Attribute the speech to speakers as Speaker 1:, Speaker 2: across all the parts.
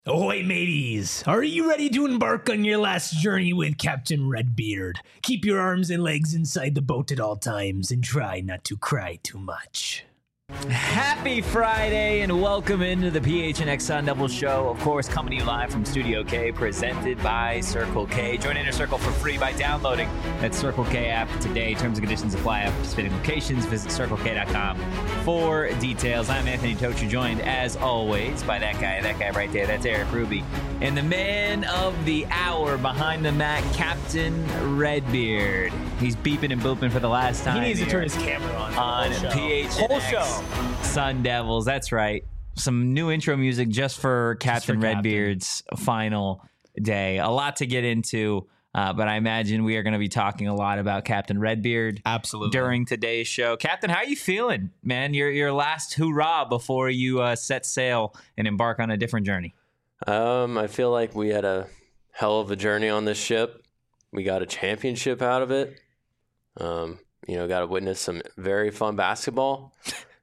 Speaker 1: Ahoy, mateys! Are you ready to embark on your last journey with Captain Redbeard? Keep your arms and legs inside the boat at all times and try not to cry too much.
Speaker 2: Happy Friday and welcome into the PHNX Sun Devil Show. Of course, coming to you live from Studio K, presented by Circle K. Join Inner Circle for free by downloading that Circle K app today. Terms and conditions apply at participating locations. Visit CircleK.com for details. I'm Anthony Tocha, joined as always by that guy right there. That's Eric Ruby. And the man of the hour behind the mat, Captain Redbeard. He's beeping and booping for the last time.
Speaker 1: He needs to turn his camera on
Speaker 2: PHNX.
Speaker 1: Whole show.
Speaker 2: Sun Devils, that's right. Some new intro music just for Captain Redbeard's final day. A lot to get into, but I imagine we are going to be talking a lot about Captain Redbeard.
Speaker 3: Absolutely.
Speaker 2: During today's show. Captain, how are you feeling, man? Your last hoorah before you set sail and embark on a different journey.
Speaker 4: I feel like we had a hell of a journey on this ship. We got a championship out of it. Got to witness some very fun basketball.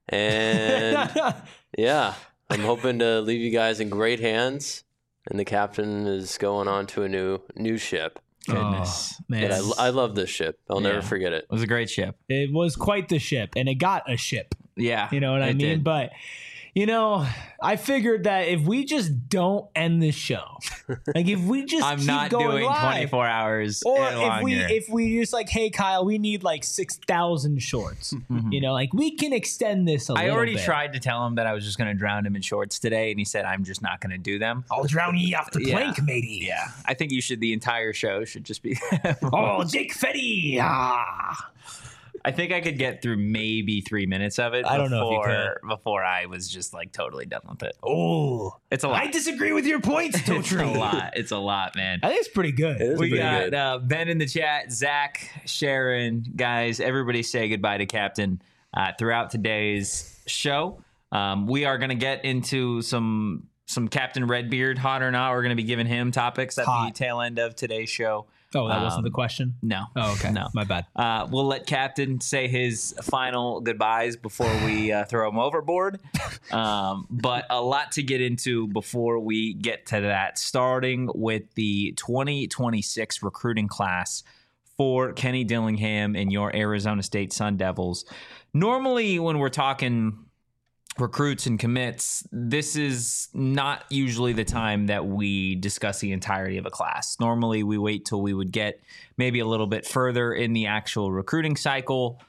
Speaker 4: And yeah, I'm hoping to leave you guys in great hands. And the captain is going on to a new ship.
Speaker 2: Goodness,
Speaker 4: man. But I love this ship. I'll never forget it.
Speaker 2: It was a great ship.
Speaker 1: It was quite the ship, and it got a ship.
Speaker 2: Yeah.
Speaker 1: You know what I mean?
Speaker 2: Did.
Speaker 1: But, I figured that if we just don't end the show, like if we just
Speaker 2: I'm
Speaker 1: keep
Speaker 2: not
Speaker 1: going
Speaker 2: doing
Speaker 1: live,
Speaker 2: 24 hours
Speaker 1: or
Speaker 2: longer.
Speaker 1: if we just like, hey Kyle, we need like 6,000 shorts. Like we can extend this a little bit.
Speaker 2: I already tried to tell him that I was just going to drown him in shorts today, and he said I'm just not going to do them.
Speaker 1: I'll drown ye off the plank, matey.
Speaker 2: Yeah, I think the entire show should just be.
Speaker 1: Oh, Jake Fetty.
Speaker 2: I think I could get through maybe 3 minutes of it.
Speaker 1: I don't know if you could.
Speaker 2: Before I was just like totally done with it.
Speaker 1: Oh,
Speaker 2: it's a lot.
Speaker 1: I disagree with your points, Totri.
Speaker 2: It's a lot, man.
Speaker 1: I think it's pretty good.
Speaker 2: We got Ben in the chat, Zach, Sharon, guys. Everybody say goodbye to Captain throughout today's show. We are going to get into some Captain Redbeard, hot or not. We're going to be giving him topics at the tail end of today's show.
Speaker 1: Oh, that wasn't the question?
Speaker 2: No.
Speaker 1: Oh, okay.
Speaker 2: No.
Speaker 1: My bad.
Speaker 2: We'll let Captain say his final goodbyes before we throw him overboard. But a lot to get into before we get to that, starting with the 2026 recruiting class for Kenny Dillingham and your Arizona State Sun Devils. Normally, when we're talking recruits and commits, this is not usually the time that we discuss the entirety of a class. Normally, we wait till we would get maybe a little bit further in the actual recruiting cycle,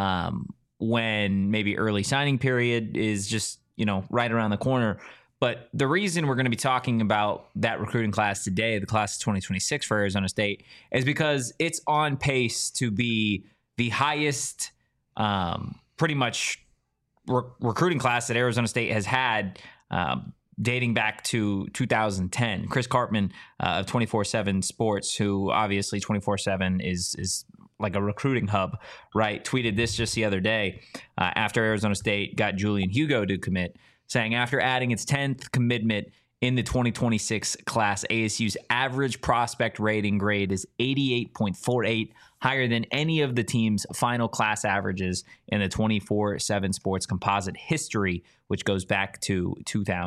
Speaker 2: when maybe early signing period is just, right around the corner. But the reason we're going to be talking about that recruiting class today, the class of 2026 for Arizona State, is because it's on pace to be the highest, pretty much recruiting class that Arizona State has had dating back to 2010. Chris Karpman of 24/7 Sports, who obviously 24/7 is like a recruiting hub, right, tweeted this just the other day after Arizona State got Julian Hugo to commit, saying after adding its 10th commitment in the 2026 class, ASU's average prospect rating grade is 88.48, higher than any of the team's final class averages in the 24/7 Sports composite history, which goes back to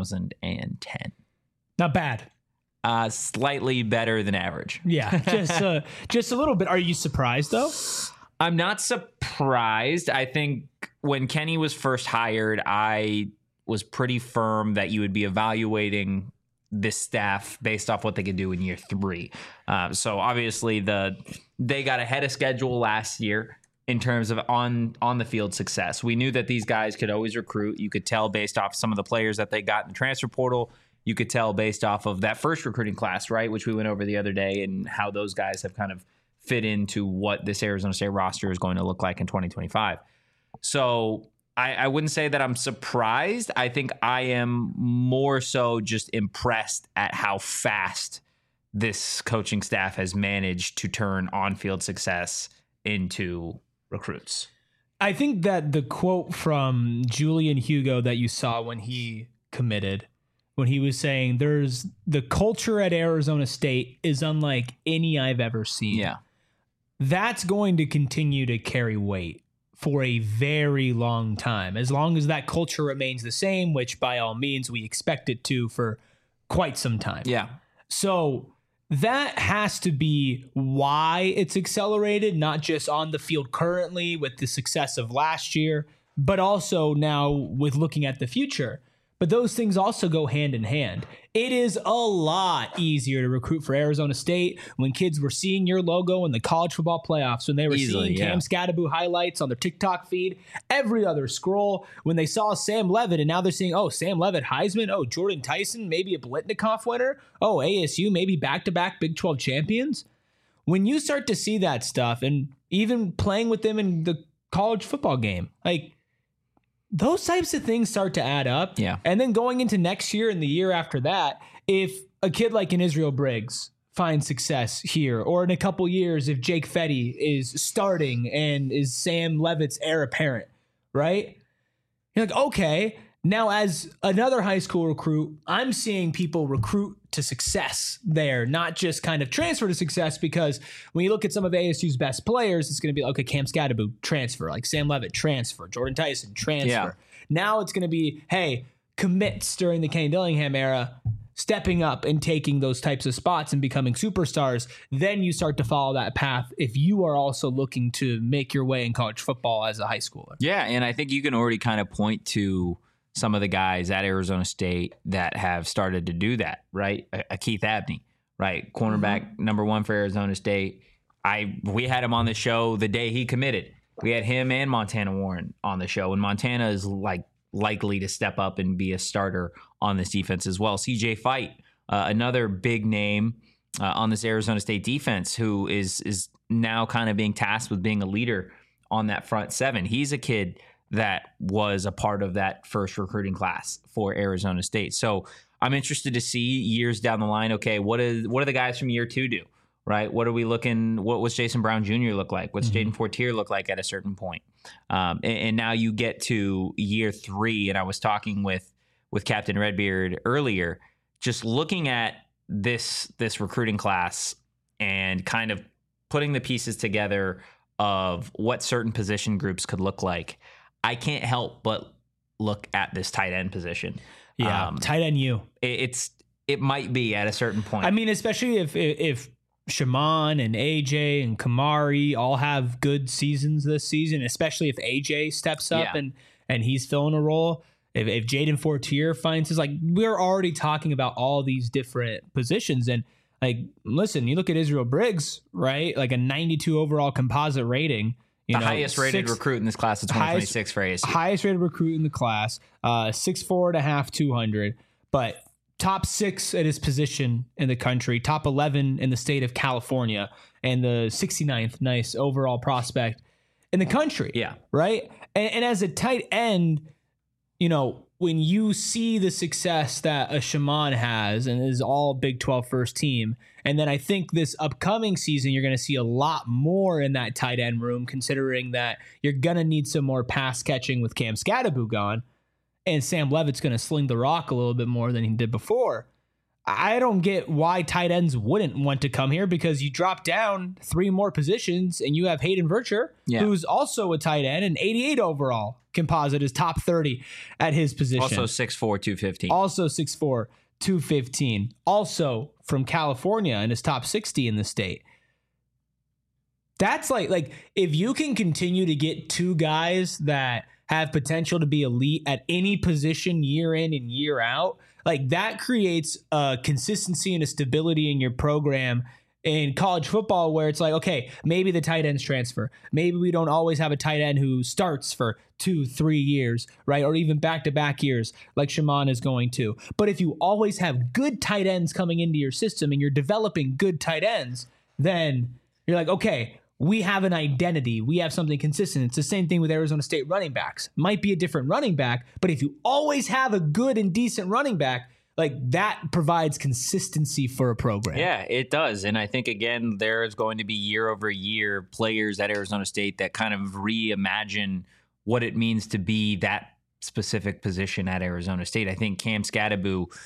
Speaker 2: 2010.
Speaker 1: Not bad.
Speaker 2: Slightly better than average.
Speaker 1: Yeah, just a little bit. Are you surprised, though?
Speaker 2: I'm not surprised. I think when Kenny was first hired, I was pretty firm that you would be evaluating this staff based off what they could do in year 3. So obviously they got ahead of schedule last year in terms of on the field success. We knew that these guys could always recruit. You could tell based off some of the players that they got in the transfer portal. You could tell based off of that first recruiting class, right, which we went over the other day, and how those guys have kind of fit into what this Arizona State roster is going to look like in 2025. So I wouldn't say that I'm surprised. I think I am more so just impressed at how fast this coaching staff has managed to turn on-field success into recruits.
Speaker 1: I think that the quote from Julian Hugo that you saw when he committed, when he was saying there's the culture at Arizona State is unlike any I've ever seen.
Speaker 2: Yeah.
Speaker 1: That's going to continue to carry weight for a very long time, as long as that culture remains the same, which by all means we expect it to for quite some time.
Speaker 2: Yeah.
Speaker 1: So that has to be why it's accelerated, not just on the field currently with the success of last year, but also now with looking at the future. But those things also go hand in hand. It is a lot easier to recruit for Arizona State when kids were seeing your logo in the college football playoffs, when they were seeing Cam Scadaboo highlights on their TikTok feed, every other scroll, when they saw Sam Levitt, and now they're seeing, oh, Sam Levitt, Heisman, oh, Jordan Tyson, maybe a Biletnikoff winner, oh, ASU, maybe back-to-back Big 12 champions. When you start to see that stuff, and even playing with them in the college football game, like, those types of things start to add up.
Speaker 2: Yeah.
Speaker 1: And then going into next year and the year after that, if a kid like an Israel Briggs finds success here, or in a couple years, if Jake Fetty is starting and is Sam Levitt's heir apparent, right? You're like, okay, now as another high school recruit, I'm seeing people recruit to success there, not just kind of transfer to success, because when you look at some of ASU's best players, it's going to be like, okay, Cam Scadaboo, transfer, like Sam Levitt, transfer, Jordan Tyson, transfer.
Speaker 2: Yeah.
Speaker 1: Now it's going to be, hey, commits during the Kenny Dillingham era, stepping up and taking those types of spots and becoming superstars. Then you start to follow that path if you are also looking to make your way in college football as a high schooler.
Speaker 2: Yeah, and I think you can already kind of point to some of the guys at Arizona State that have started to do that, right? A Keith Abney, right? Cornerback number 1 for Arizona State. We had him on the show the day he committed. We had him and Montana Warren on the show, and Montana is likely to step up and be a starter on this defense as well. CJ Fight, another big name on this Arizona State defense, who is now kind of being tasked with being a leader on that front seven. He's a kid that was a part of that first recruiting class for Arizona State. So I'm interested to see years down the line, okay, what do the guys from year 2 do, right? What was Jason Brown Jr. look like? What's Jaden Fortier look like at a certain point? And now you get to year 3, and I was talking with Captain Redbeard earlier, just looking at this recruiting class and kind of putting the pieces together of what certain position groups could look like. I can't help but look at this tight end position.
Speaker 1: Yeah, tight end you.
Speaker 2: It might be at a certain point.
Speaker 1: I mean, especially if Shaman and AJ and Kamari all have good seasons this season, especially if AJ steps up and he's filling a role. If Jaden Fortier finds his, we're already talking about all these different positions. And listen, you look at Israel Briggs, right? Like a 92 overall composite rating.
Speaker 2: The highest rated recruit in this class of 2026 for ASU.
Speaker 1: Highest rated recruit in the class, 6'4.5", 200, but top 6 at his position in the country, top 11 in the state of California, and the 69th nice overall prospect in the country.
Speaker 2: Yeah.
Speaker 1: Right? And as a tight end, when you see the success that a Shaman has and is all Big 12 first team, and then I think this upcoming season, you're going to see a lot more in that tight end room, considering that you're going to need some more pass catching with Cam Scadaboo gone, and Sam Levitt's going to sling the rock a little bit more than he did before. I don't get why tight ends wouldn't want to come here, because you drop down 3 more positions and you have Hayden Vircher, who's also a tight end, and 88 overall composite is top 30 at his position.
Speaker 2: Also 6'4", 215.
Speaker 1: Also 6'4", 215. Also from California and is top 60 in the state. That's like if you can continue to get 2 guys that have potential to be elite at any position year in and year out, that creates a consistency and a stability in your program in college football, where it's okay, maybe the tight ends transfer. Maybe we don't always have a tight end who starts for 2-3 years, right? Or even back-to-back years like Shaman is going to. But if you always have good tight ends coming into your system and you're developing good tight ends, then you're okay, we have an identity. We have something consistent. It's the same thing with Arizona State running backs. Might be a different running back, but if you always have a good and decent running back, that provides consistency for a program.
Speaker 2: Yeah, it does. And I think, again, there's going to be year over year players at Arizona State that kind of reimagine what it means to be that specific position at Arizona State. I think Cam Scadaboo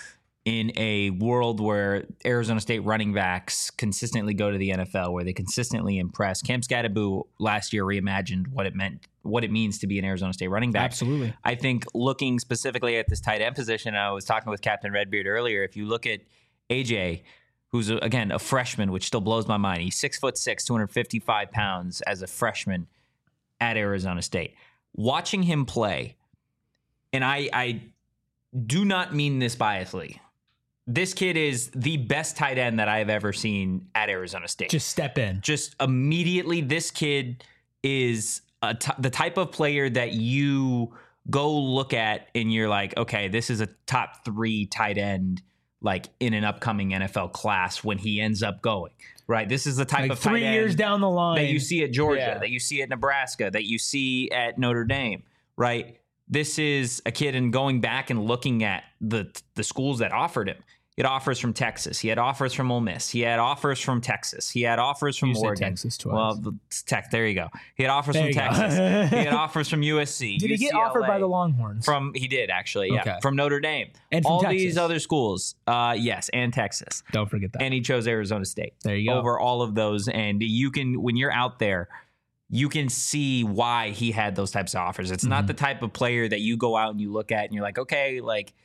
Speaker 2: in a world where Arizona State running backs consistently go to the NFL, where they consistently impress. Cam Skattebo last year reimagined what it means to be an Arizona State running back.
Speaker 1: Absolutely.
Speaker 2: I think looking specifically at this tight end position, I was talking with Captain Redbeard earlier. If you look at AJ, who's again a freshman, which still blows my mind. He's 6'6", 255 pounds as a freshman at Arizona State. Watching him play, and I do not mean this biasly. This kid is the best tight end that I have ever seen at Arizona State.
Speaker 1: Just step in.
Speaker 2: Just immediately, this kid is the type of player that you go look at and you're like, okay, this is a top 3 tight end like in an upcoming NFL class when he ends up going. Right? This is the type of tight
Speaker 1: 3 years
Speaker 2: end
Speaker 1: down the line
Speaker 2: that you see at Georgia, that you see at Nebraska, that you see at Notre Dame. Right? This is a kid, and going back and looking at the schools that offered him. He had offers from Texas. He had offers from Ole Miss. He had offers from Texas. He had offers from Oregon.
Speaker 1: Texas twice.
Speaker 2: Well, Tech. There you go. He had offers from Texas. He had offers from USC.
Speaker 1: Did he get offered by the Longhorns?
Speaker 2: He did actually. Yeah,
Speaker 1: okay.
Speaker 2: From Notre Dame
Speaker 1: And from
Speaker 2: all
Speaker 1: Texas.
Speaker 2: these other schools. Yes, and Texas.
Speaker 1: Don't forget that.
Speaker 2: And he chose Arizona State.
Speaker 1: There you go.
Speaker 2: Over all of those, and you can, when you're out there, you can see why he had those types of offers. It's not the type of player that you go out and you look at and you're like, okay, like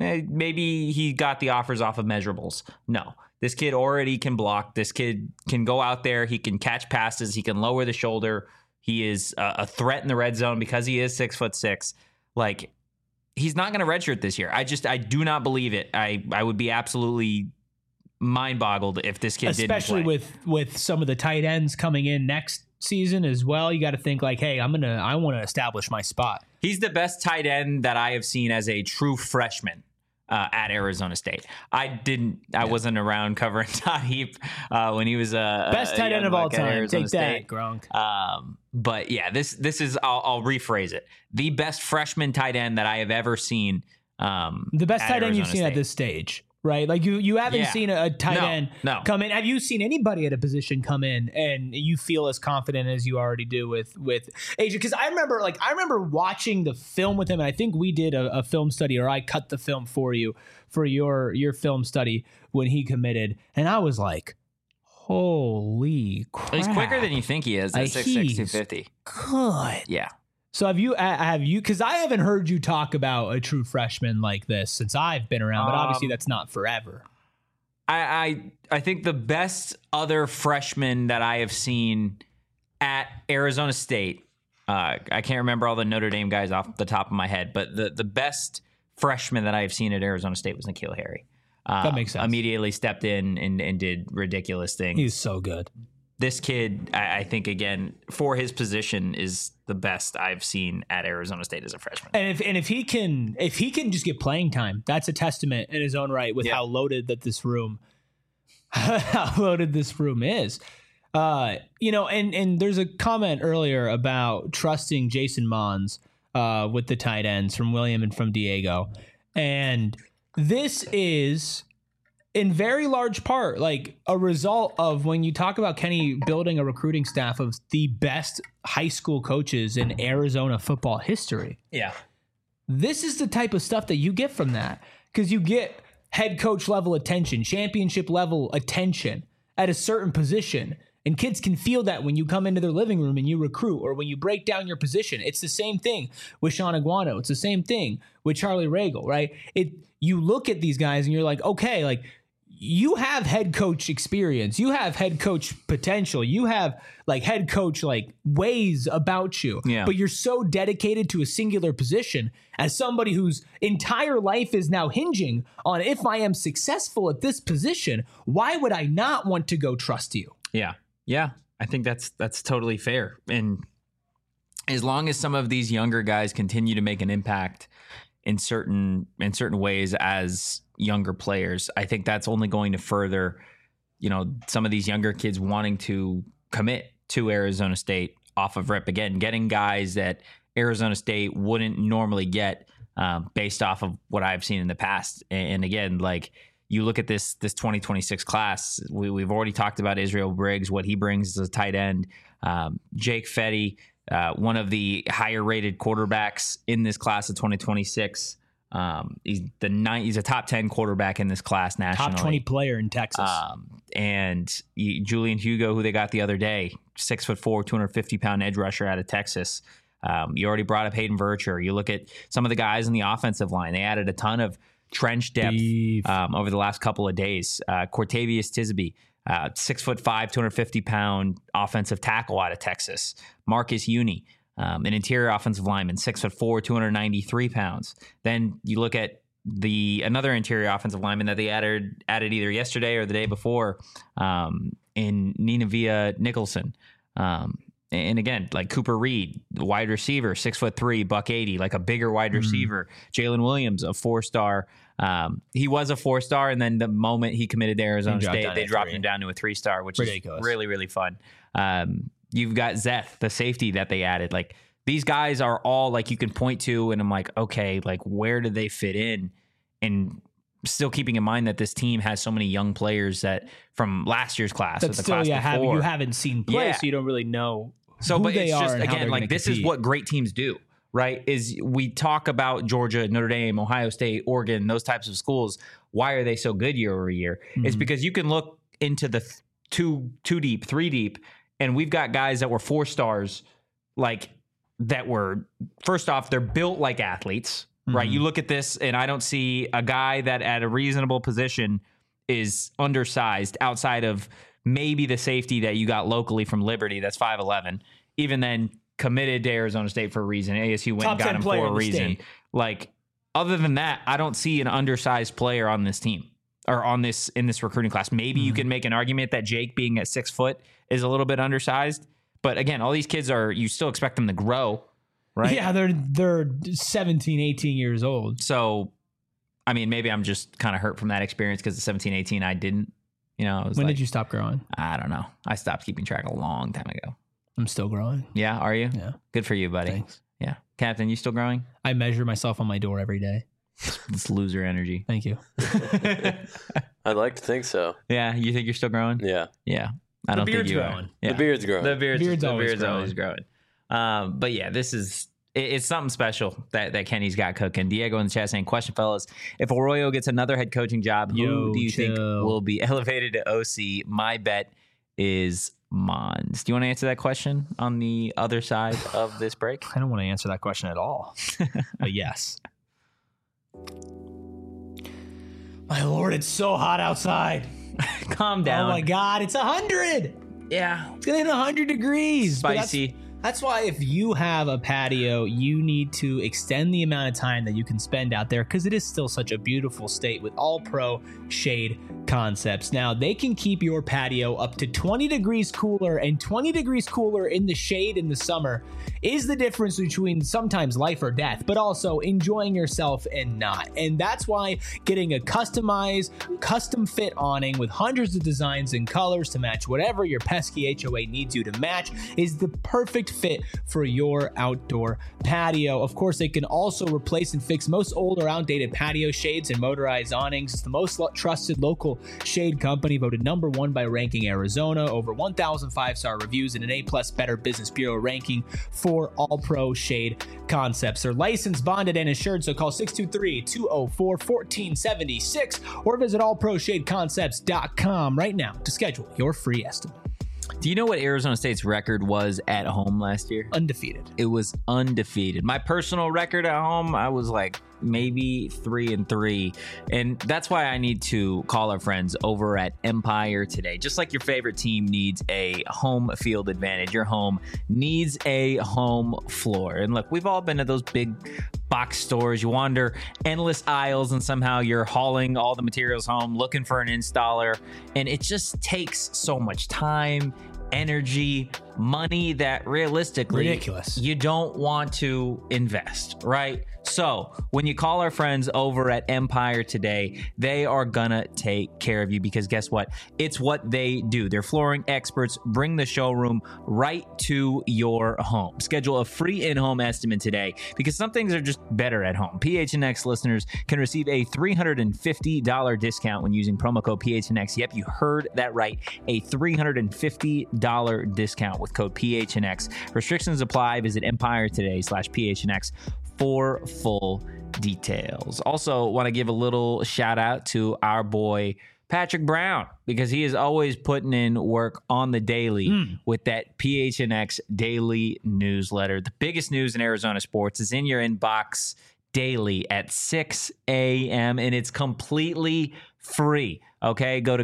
Speaker 2: maybe he got the offers off of measurables. No, this kid already can block. This kid can go out there. He can catch passes. He can lower the shoulder. He is a threat in the red zone because he is 6'6". Like, he's not going to redshirt this year. I do not believe it. I would be absolutely mind boggled if this kid didn't play.
Speaker 1: Especially with some of the tight ends coming in next season as well. You got to think like, hey, I want to establish my spot.
Speaker 2: He's the best tight end that I have seen as a true freshman at Arizona State. I wasn't around covering Todd Heap when he was
Speaker 1: best tight end of all time.
Speaker 2: Arizona
Speaker 1: Take
Speaker 2: State.
Speaker 1: that, Gronk.
Speaker 2: But yeah, this is I'll rephrase it. The best freshman tight end that I have ever seen.
Speaker 1: The best
Speaker 2: at
Speaker 1: tight end you've
Speaker 2: Arizona
Speaker 1: seen at
Speaker 2: State.
Speaker 1: this stage. Right, like you haven't seen a tight end come in. Have you seen anybody at a position come in and you feel as confident as you already do with AJ? Because I remember watching the film with him, and I think we did a film study, or I cut the film for you for your film study when he committed, and I was like, holy crap!
Speaker 2: He's quicker than you think he is. At 6'6", 250.
Speaker 1: Good.
Speaker 2: Yeah.
Speaker 1: So have you? Because I haven't heard you talk about a true freshman like this since I've been around, but obviously that's not forever.
Speaker 2: I think the best other freshman that I have seen at Arizona State, I can't remember all the Notre Dame guys off the top of my head, but the best freshman that I have seen at Arizona State was N'Keal Harry.
Speaker 1: That makes sense.
Speaker 2: Immediately stepped in and did ridiculous things.
Speaker 1: He's so good.
Speaker 2: This kid, I think, again, for his position, is the best I've seen at Arizona State as a freshman.
Speaker 1: And if he can just get playing time, that's a testament in his own right with how loaded this room is. And there's a comment earlier about trusting Jason Mons with the tight ends from William and from Diego, and this is in very large part like a result of when you talk about Kenny building a recruiting staff of the best high school coaches in Arizona football history.
Speaker 2: Yeah.
Speaker 1: This is the type of stuff that you get from that, because you get head coach level attention, championship level attention at a certain position. And kids can feel that when you come into their living room and you recruit, or when you break down your position. It's the same thing with Sean Aguano. It's the same thing with Charlie Ragle, right? You look at these guys and you're like, okay, like, you have head coach experience. You have head coach potential. You have like head coach like ways about you.
Speaker 2: Yeah.
Speaker 1: But you're so dedicated to a singular position as somebody whose entire life is now hinging on, if I am successful at this position, why would I not want to go trust you?
Speaker 2: Yeah. Yeah. I think that's totally fair. And as long as some of these younger guys continue to make an impact in certain ways as younger players, I think that's only going to further, some of these younger kids wanting to commit to Arizona State off of rip. Again, getting guys that Arizona State wouldn't normally get based off of what I've seen in the past. And again, like, you look at this 2026 class, we've already talked about Israel Briggs, what he brings as a tight end. Jake Fetty, one of the higher rated quarterbacks in this class of 2026. He's a top 10 quarterback in this class nationally.
Speaker 1: Top 20 player in Texas.
Speaker 2: Julian Hugo, who they got the other day, 6'4", 250-pound edge rusher out of Texas. You already brought up Hayden Vercher. You look at some of the guys in the offensive line. They added a ton of trench depth over the last couple of days. Cortavius Tisby, 6'5", 250-pound offensive tackle out of Texas. Marcus Uni, an interior offensive lineman, 6'4", 293 pounds. Then you look at another interior offensive lineman that they added either yesterday or the day before, in Nineveh Nicholson. And again, like Cooper Reed, wide receiver, 6'3", $180, like a bigger wide receiver. Jalen Williams, a 4-star. He was a 4-star, and then the moment he committed to Arizona State, they dropped him down to a 3-star, which
Speaker 1: ridiculous.
Speaker 2: Is really, really fun. You've got Zeth, the safety that they added. Like, these guys are all like you can point to, and I'm like, okay, like where do they fit in? And still keeping in mind that this team has so many young players that from last year's class.
Speaker 1: That still, you haven't seen play, so you don't really know.
Speaker 2: So, but
Speaker 1: they
Speaker 2: it's just,
Speaker 1: are
Speaker 2: again, like this is what great teams do, right? Is we talk about Georgia, Notre Dame, Ohio State, Oregon, those types of schools. Why are they so good year over year? It's because you can look into the two deep, 3 deep, and we've got guys that were 4-stars, like that were, first off, they're built like athletes, right? You look at this, and I don't see a guy that at a reasonable position is undersized outside of maybe the safety that you got locally from Liberty that's 5'11", even then committed to Arizona State for a reason. ASU went and got him for a reason. Like, other than that, I don't see an undersized player on this team or in this recruiting class. Maybe you can make an argument that Jake being at 6 foot is a little bit undersized. But again, all these kids you still expect them to grow, right?
Speaker 1: Yeah, they're 17, 18 years old.
Speaker 2: So, I mean, maybe I'm just kind of hurt from that experience because at 17, 18, I didn't. When
Speaker 1: did you stop growing?
Speaker 2: I don't know. I stopped keeping track a long time ago.
Speaker 1: I'm still growing.
Speaker 2: Yeah, are you?
Speaker 1: Yeah.
Speaker 2: Good for you, buddy.
Speaker 1: Thanks.
Speaker 2: Yeah. Captain, you still growing?
Speaker 1: I measure myself on my door every day.
Speaker 2: It's loser energy.
Speaker 1: Thank you.
Speaker 4: I'd like to think so.
Speaker 2: Yeah, you think you're still growing?
Speaker 4: Yeah.
Speaker 2: Yeah. I don't think you
Speaker 1: growing.
Speaker 2: are. Yeah.
Speaker 4: The beard's growing.
Speaker 2: The beard's
Speaker 1: always
Speaker 2: growing. But yeah, it's something special that Kenny's got cooking. Diego in the chat saying, question, fellas, if Arroyo gets another head coaching job, who do you think will be elevated to OC? My bet is Mons. Do you want to answer that question on the other side of this break?
Speaker 1: I don't want to answer that question at all. But yes. My Lord, it's so hot outside.
Speaker 2: Calm down.
Speaker 1: Oh my God, it's 100.
Speaker 2: Yeah.
Speaker 1: It's gonna hit 100 degrees.
Speaker 2: Spicy.
Speaker 1: That's why if you have a patio, you need to extend the amount of time that you can spend out there because it is still such a beautiful state with All Pro Shade Concepts. Now, they can keep your patio up to 20 degrees cooler, and 20 degrees cooler in the shade in the summer is the difference between sometimes life or death, but also enjoying yourself and not. And that's why getting a customized, custom fit awning with hundreds of designs and colors to match whatever your pesky HOA needs you to match is the perfect fit for your outdoor patio. Of course, they can also replace and fix most old or outdated patio shades and motorized awnings. It's the most trusted local shade company, voted #1 by Ranking Arizona, over 1,000 5-star reviews and an A+ Better Business Bureau ranking for All Pro Shade Concepts. They're licensed, bonded, and insured, so call 623-204-1476 or visit allproshadeconcepts.com right now to schedule your free estimate.
Speaker 2: Do you know what Arizona State's record was at home last year?
Speaker 1: Undefeated.
Speaker 2: It was undefeated. My personal record at home, I was like maybe 3-3. And that's why I need to call our friends over at Empire Today. Just like your favorite team needs a home field advantage, your home needs a home floor. And look, we've all been to those big box stores. You wander endless aisles and somehow you're hauling all the materials home, looking for an installer. And it just takes so much time, energy, money that realistically
Speaker 1: ridiculous.
Speaker 2: You don't want to invest, right? So when you call our friends over at Empire Today, they are gonna take care of you because guess what? It's what they do. They're flooring experts. Bring the showroom right to your home. Schedule a free in-home estimate today because some things are just better at home. PHNX listeners can receive a $350 discount when using promo code PHNX. Yep, you heard that right. A $350 $10 discount with code PHNX. Restrictions apply. Visit Empire today/PHNX for full details. Also, want to give a little shout out to our boy Patrick Brown, because he is always putting in work on the daily with that PHNX daily newsletter. The biggest news in Arizona sports is in your inbox daily at 6 a.m. and it's completely free. Okay, go to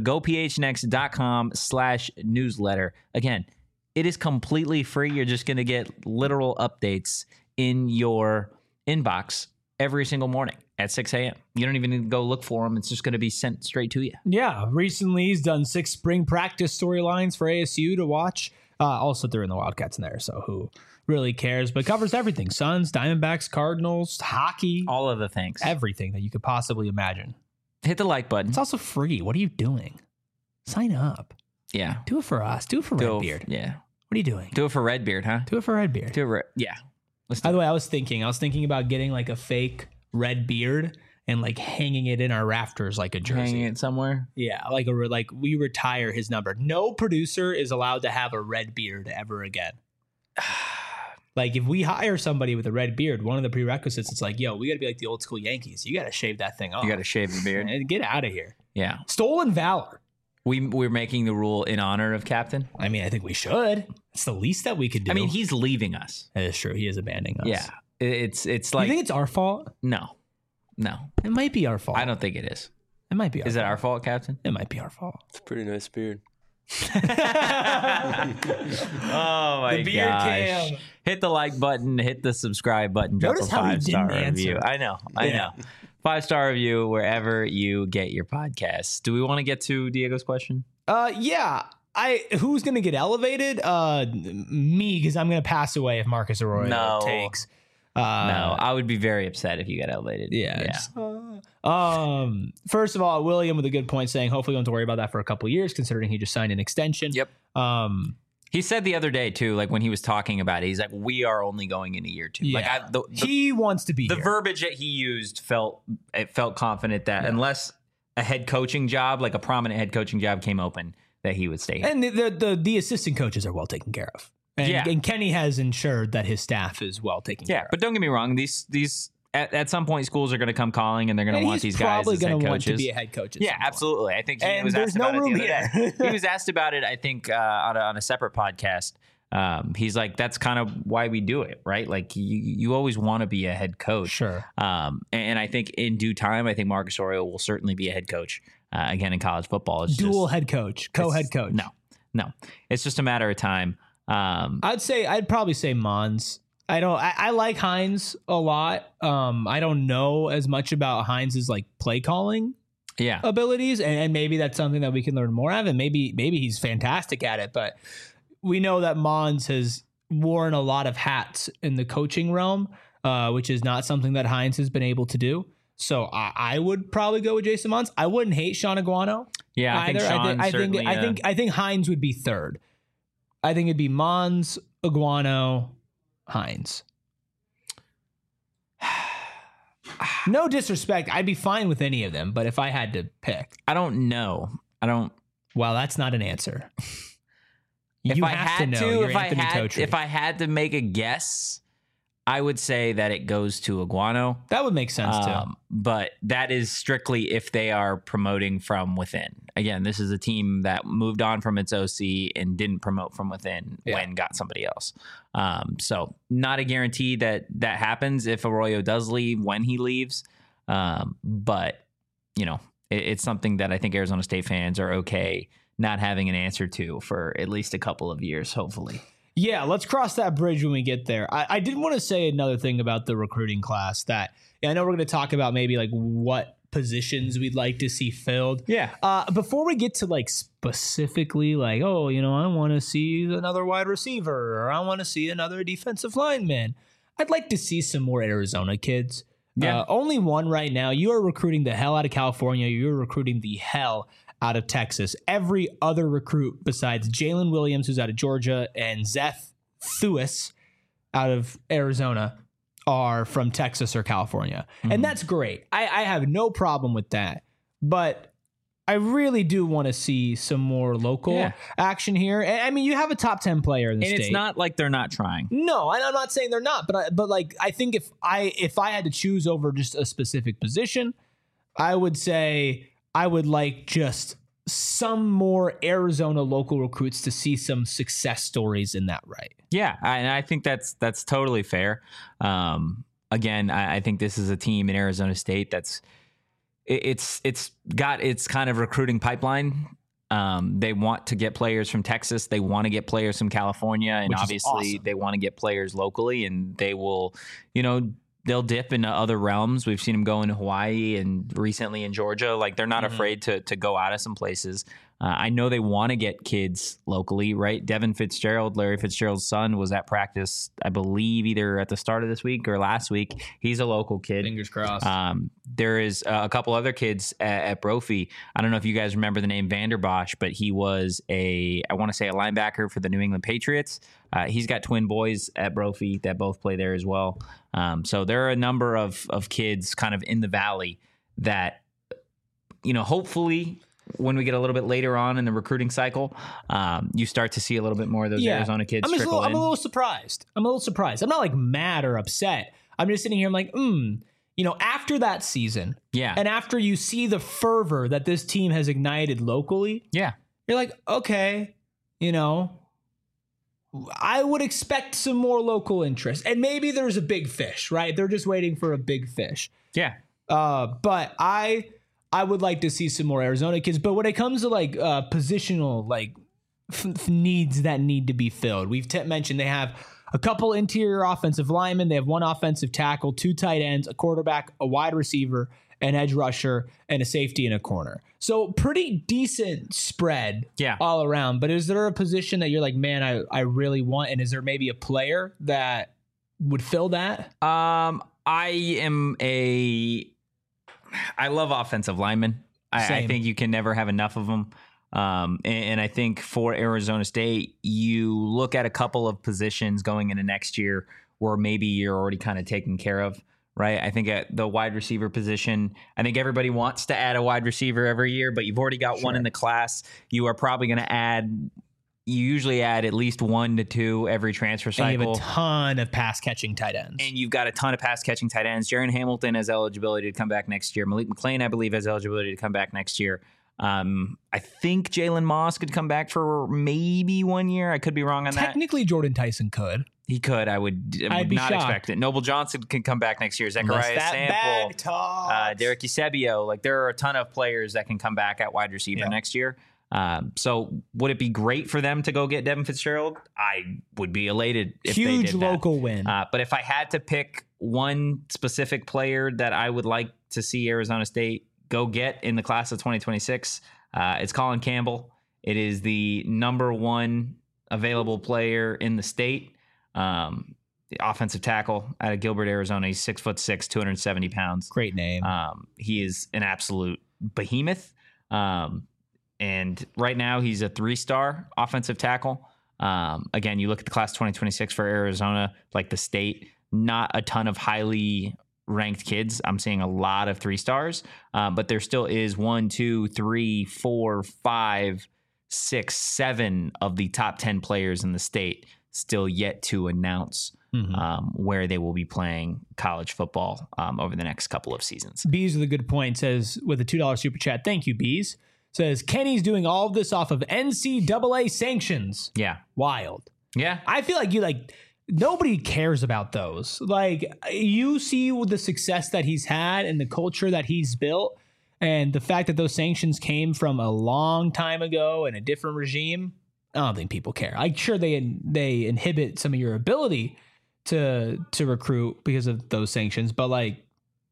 Speaker 2: gophnx.com/newsletter. Again, it is completely free. You're just going to get literal updates in your inbox every single morning at 6 a.m. You don't even need to go look for them. It's just going to be sent straight to you.
Speaker 1: Yeah, recently he's done 6 spring practice storylines for ASU to watch. Also, they're in the Wildcats in there, so who really cares? But covers everything: Suns, Diamondbacks, Cardinals, hockey,
Speaker 2: All of the things.
Speaker 1: everything that you could possibly imagine.
Speaker 2: Hit the like button.
Speaker 1: It's also free. What are you doing? Sign up.
Speaker 2: Yeah.
Speaker 1: Do it for us. Do it for Redbeard.
Speaker 2: Yeah.
Speaker 1: What are you doing?
Speaker 2: Do it for Redbeard, huh?
Speaker 1: Do it for Redbeard.
Speaker 2: Yeah. Let's do
Speaker 1: By
Speaker 2: it.
Speaker 1: the way, I was thinking about getting like a fake red beard and like hanging it in our rafters like a jersey.
Speaker 2: Hanging it somewhere.
Speaker 1: Yeah, like we retire his number. No producer is allowed to have a red beard ever again. Like if we hire somebody with a red beard, one of the prerequisites is like, yo, we got to be like the old school Yankees. You got to shave that thing off.
Speaker 2: You got to shave the beard.
Speaker 1: and get out of here.
Speaker 2: Yeah.
Speaker 1: Stolen valor.
Speaker 2: We're making the rule in honor of Captain.
Speaker 1: I mean, I think we should. It's the least that we could do.
Speaker 2: I mean, he's leaving us.
Speaker 1: that is true. He is abandoning us.
Speaker 2: Yeah. It's
Speaker 1: You
Speaker 2: like
Speaker 1: think it's our fault?
Speaker 2: no.
Speaker 1: It might be our fault.
Speaker 2: I don't think it is.
Speaker 1: It might be.
Speaker 2: Is it our fault, Captain?
Speaker 1: It might be our fault.
Speaker 4: It's a pretty nice beard.
Speaker 2: Oh my
Speaker 1: The beard
Speaker 2: gosh.
Speaker 1: cam.
Speaker 2: Hit the like button, hit the subscribe button, drop
Speaker 1: Notice
Speaker 2: a
Speaker 1: how he
Speaker 2: 5-star
Speaker 1: didn't
Speaker 2: review.
Speaker 1: answer.
Speaker 2: I know.
Speaker 1: Yeah.
Speaker 2: 5-star review wherever you get your podcasts. Do we want to get to Diego's question?
Speaker 1: Yeah. Who's gonna get elevated? Me, because I'm gonna pass away if Marcus Arroyo
Speaker 2: No.
Speaker 1: takes.
Speaker 2: No, I would be very upset if you got elevated.
Speaker 1: Yeah. First of all, William with a good point saying hopefully we don't have to worry about that for a couple of years, considering he just signed an extension.
Speaker 2: Yep. He said the other day too, like when he was talking about it, he's like, "We are only going in a year two."
Speaker 1: Yeah.
Speaker 2: Like
Speaker 1: he wants to be
Speaker 2: the
Speaker 1: here.
Speaker 2: verbiage that he used felt confident that unless a head coaching job, like a prominent head coaching job, came open, that he would stay here.
Speaker 1: And the assistant coaches are well taken care of. And Kenny has ensured that his staff is well taken care of.
Speaker 2: But don't get me wrong, these at some point schools are going to come calling and they're going to want these guys
Speaker 1: probably
Speaker 2: as head
Speaker 1: going to want
Speaker 2: coaches.
Speaker 1: to be a head coach. At
Speaker 2: Yeah,
Speaker 1: some point.
Speaker 2: absolutely. I think he
Speaker 1: And
Speaker 2: was
Speaker 1: there's
Speaker 2: asked
Speaker 1: no
Speaker 2: about
Speaker 1: room
Speaker 2: it the other
Speaker 1: here.
Speaker 2: day. He was asked about it, I think, on a separate podcast. He's like, that's kind of why we do it, right? Like you always want to be a head coach.
Speaker 1: Sure.
Speaker 2: And I think in due time, I think Marcus Arroyo will certainly be a head coach again in college football. It's
Speaker 1: Dual
Speaker 2: just,
Speaker 1: head coach, co-head coach.
Speaker 2: No, it's just a matter of time.
Speaker 1: I'd probably say Mons. I like Hines a lot. I don't know as much about Hines's like play calling
Speaker 2: Yeah.
Speaker 1: abilities, and maybe that's something that we can learn more of, and maybe he's fantastic at it. But we know that Mons has worn a lot of hats in the coaching realm, which is not something that Hines has been able to do. So I would probably go with Jason Mons. I wouldn't hate Sean Aguano.
Speaker 2: Yeah, I think
Speaker 1: either.
Speaker 2: Sean certainly,
Speaker 1: I think Hines would be third. I think it'd be Mons, Aguano, Hines. No disrespect, I'd be fine with any of them, but if I had to pick,
Speaker 2: I don't know.
Speaker 1: well, that's not an answer.
Speaker 2: If
Speaker 1: You
Speaker 2: I
Speaker 1: have
Speaker 2: had
Speaker 1: to know.
Speaker 2: to,
Speaker 1: You're Anthony Totri.
Speaker 2: if I had to make a guess, I would say that it goes to Aguano.
Speaker 1: That would make sense too.
Speaker 2: But that is strictly if they are promoting from within. Again, this is a team that moved on from its OC and didn't promote from within when got somebody else. So not a guarantee that happens if Arroyo does leave, when he leaves. But, you know, it's something that I think Arizona State fans are okay not having an answer to for at least a couple of years, hopefully.
Speaker 1: Yeah, let's cross that bridge when we get there. I did want to say another thing about the recruiting class that I know we're going to talk about maybe like what positions we'd like to see filled.
Speaker 2: Yeah.
Speaker 1: Before we get to like specifically like, oh, you know, I want to see another wide receiver or I want to see another defensive lineman. I'd like to see some more Arizona kids.
Speaker 2: Yeah.
Speaker 1: Only one right now. You are recruiting the hell out of California. You're recruiting the hell out of Texas. Every other recruit besides Jalen Williams, who's out of Georgia, and Zeth Thuis out of Arizona are from Texas or California. And that's great. I have no problem with that. But I really do want to see some more local action here. And, I mean, you have a top 10 player in the state.
Speaker 2: And it's not like they're not trying.
Speaker 1: No, and I'm not saying they're not, but like I think if I had to choose over just a specific position, I would say I would like just some more Arizona local recruits to see some success stories in that right.
Speaker 2: Yeah, and I think that's totally fair. Again, I think this is a team in Arizona State that's it's got its kind of recruiting pipeline. They want to get players from Texas. They want to get players from California, and obviously they want to get players locally. And they will, they'll dip into other realms. We've seen them go into Hawaii and recently in Georgia. Like they're not afraid to go out of some places. I know they want to get kids locally, right? Devin Fitzgerald, Larry Fitzgerald's son, was at practice, I believe, either at the start of this week or last week. He's a local kid.
Speaker 1: Fingers crossed.
Speaker 2: There is a couple other kids at Brophy. I don't know if you guys remember the name Vanderbosch, but he was I want to say a linebacker for the New England Patriots. He's got twin boys at Brophy that both play there as well. So there are a number of kids kind of in the valley that, hopefully when we get a little bit later on in the recruiting cycle, you start to see a little bit more of those Arizona kids trickle in.
Speaker 1: I'm a little surprised. I'm not like mad or upset. I'm just sitting here. I'm like, after that season, and after you see the fervor that this team has ignited locally, you're like, okay, I would expect some more local interest, and maybe there's a big fish, right? They're just waiting for a big fish.
Speaker 2: Yeah.
Speaker 1: But I would like to see some more Arizona kids. But when it comes to like positional like needs that need to be filled, we've mentioned they have a couple interior offensive linemen. They have one offensive tackle, 2 tight ends, a quarterback, a wide receiver, an edge rusher, and a safety in a corner. So pretty decent spread all around. But is there a position that you're like, man, I really want? And is there maybe a player that would fill that?
Speaker 2: I love offensive linemen. I think you can never have enough of them. And I think for Arizona State, you look at a couple of positions going into next year where maybe you're already kind of taken care of, right? I think at the wide receiver position, I think everybody wants to add a wide receiver every year, but you've already got one in the class. You are probably going to you usually add at least 1 to 2 every transfer cycle.
Speaker 1: And you have a ton of pass-catching tight ends.
Speaker 2: And you've got a ton of pass-catching tight ends. Jaron Hamilton has eligibility to come back next year. Malik McClain, I believe, has eligibility to come back next year. I think Jalen Moss could come back for maybe 1 year. I could be wrong on that.
Speaker 1: Technically, Jordan Tyson could.
Speaker 2: He could. I would not expect it. Noble Johnson can come back next year. Zechariah Sample, Derek Eusebio. Like there are a ton of players that can come back at wide receiver next year. So would it be great for them to go get Devin Fitzgerald? I would be elated if they did that.
Speaker 1: Huge local win.
Speaker 2: But if I had to pick one specific player that I would like to see Arizona State go get in the class of 2026, it's Colin Campbell. It is the number 1 available player in the state. The offensive tackle out of Gilbert, Arizona. He's 6'6", 270 pounds.
Speaker 1: Great name.
Speaker 2: He is an absolute behemoth. And right now he's a 3-star offensive tackle. Again, you look at the class 2026 for Arizona, like the state, not a ton of highly ranked kids. I'm seeing a lot of 3-stars, but there still is 1, 2, 3, 4, 5, 6, 7 of the top 10 players in the state still yet to announce where they will be playing college football over the next couple of seasons.
Speaker 1: Bees with a good point says with a $2 super chat. Thank you, Bees. Says Kenny's doing all of this off of NCAA sanctions.
Speaker 2: Yeah.
Speaker 1: Wild.
Speaker 2: Yeah.
Speaker 1: I feel like nobody cares about those. Like you see the success that he's had and the culture that he's built and the fact that those sanctions came from a long time ago and a different regime. I don't think people care. I'm sure they inhibit some of your ability to recruit because of those sanctions, but like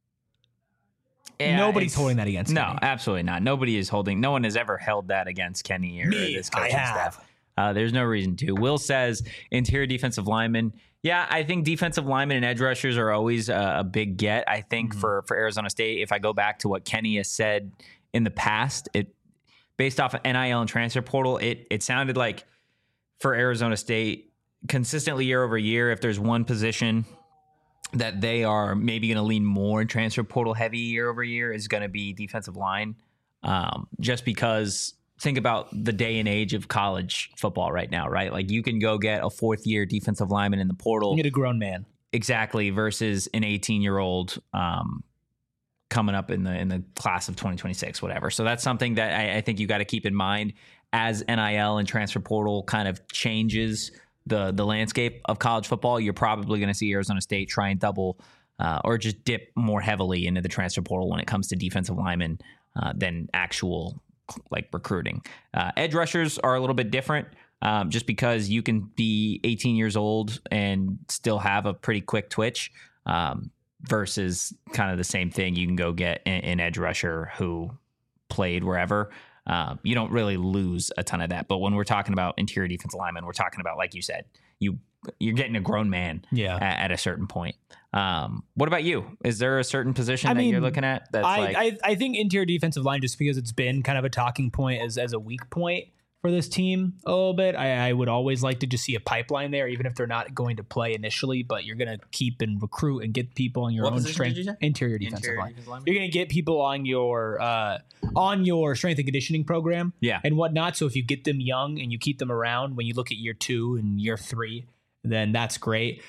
Speaker 1: nobody's holding that against Kenny.
Speaker 2: No, absolutely not. Nobody is holding. No one has ever held that against Kenny or this coaching staff. There's no reason to. Will says interior defensive linemen. Yeah, I think defensive linemen and edge rushers are always a big get. I think for Arizona State, if I go back to what Kenny has said in the past, based off of NIL and transfer portal, it sounded like for Arizona State, consistently year over year, if there's one position that they are maybe going to lean more in transfer portal heavy year over year, is going to be defensive line. just because think about the day and age of college football right now, right? Like you can go get a 4th-year defensive lineman in the portal.
Speaker 1: You get a grown man.
Speaker 2: Exactly, versus an 18-year-old coming up in the class of 2026, whatever. So that's something that I think you got to keep in mind as NIL and transfer portal kind of changes the landscape of college football. You're probably going to see Arizona State try and double or just dip more heavily into the transfer portal when it comes to defensive linemen than actual like recruiting. Edge rushers are a little bit different. Just because you can be 18 years old and still have a pretty quick twitch versus kind of the same thing. You can go get an edge rusher who played wherever. You don't really lose a ton of that. But when we're talking about interior defensive linemen, we're talking about, like you said, you're getting a grown man at a certain point. What about you? Is there a certain position that you're looking at? That's
Speaker 1: I think interior defensive line, just because it's been kind of a talking point as a weak point for this team a little bit. I would always like to just see a pipeline there, even if they're not going to play initially, but you're going to keep and recruit and get people on your own strength. Interior defensive line. You're going to get people on your strength and conditioning program and whatnot. So if you get them young and you keep them around, when you look at year 2 and year 3, then that's great.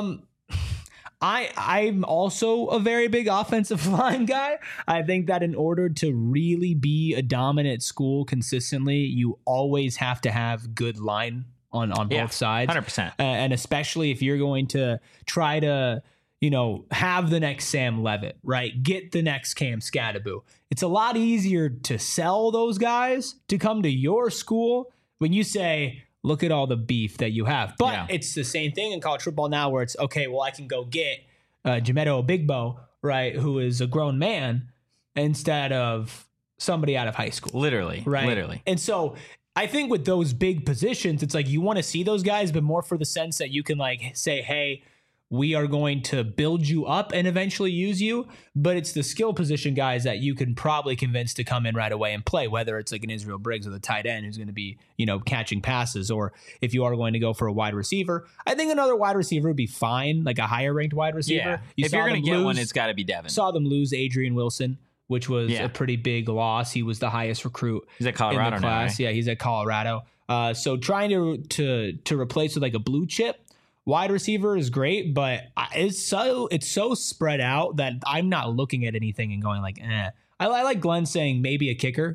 Speaker 1: I'm also a very big offensive line guy. I think that in order to really be a dominant school consistently, you always have to have good line on both sides.
Speaker 2: 100%.
Speaker 1: And especially if you're going to try to, have the next Sam Levitt, right? Get the next Cam Scattaboo. It's a lot easier to sell those guys to come to your school when you say, look at all the beef that you have. But it's the same thing in college football now where it's, okay, well, I can go get Jamedo Obigbo, right, who is a grown man, instead of somebody out of high school.
Speaker 2: Literally.
Speaker 1: Right?
Speaker 2: Literally.
Speaker 1: And so I think with those big positions, it's like you want to see those guys, but more for the sense that you can like say, hey, we are going to build you up and eventually use you, but it's the skill position guys that you can probably convince to come in right away and play, whether it's like an Israel Briggs or the tight end who's going to be, catching passes, or if you are going to go for a wide receiver. I think another wide receiver would be fine, like a higher ranked wide receiver.
Speaker 2: Yeah. If you're going to get one, it's got to be Devin.
Speaker 1: Saw them lose Adrian Wilson, which was a pretty big loss. He was the highest recruit.
Speaker 2: He's at Colorado
Speaker 1: in the class.
Speaker 2: now, right?
Speaker 1: Yeah, he's at Colorado. So trying to replace with like a blue chip wide receiver is great, but it's so spread out that I'm not looking at anything and going like, eh. I like Glenn saying maybe a kicker.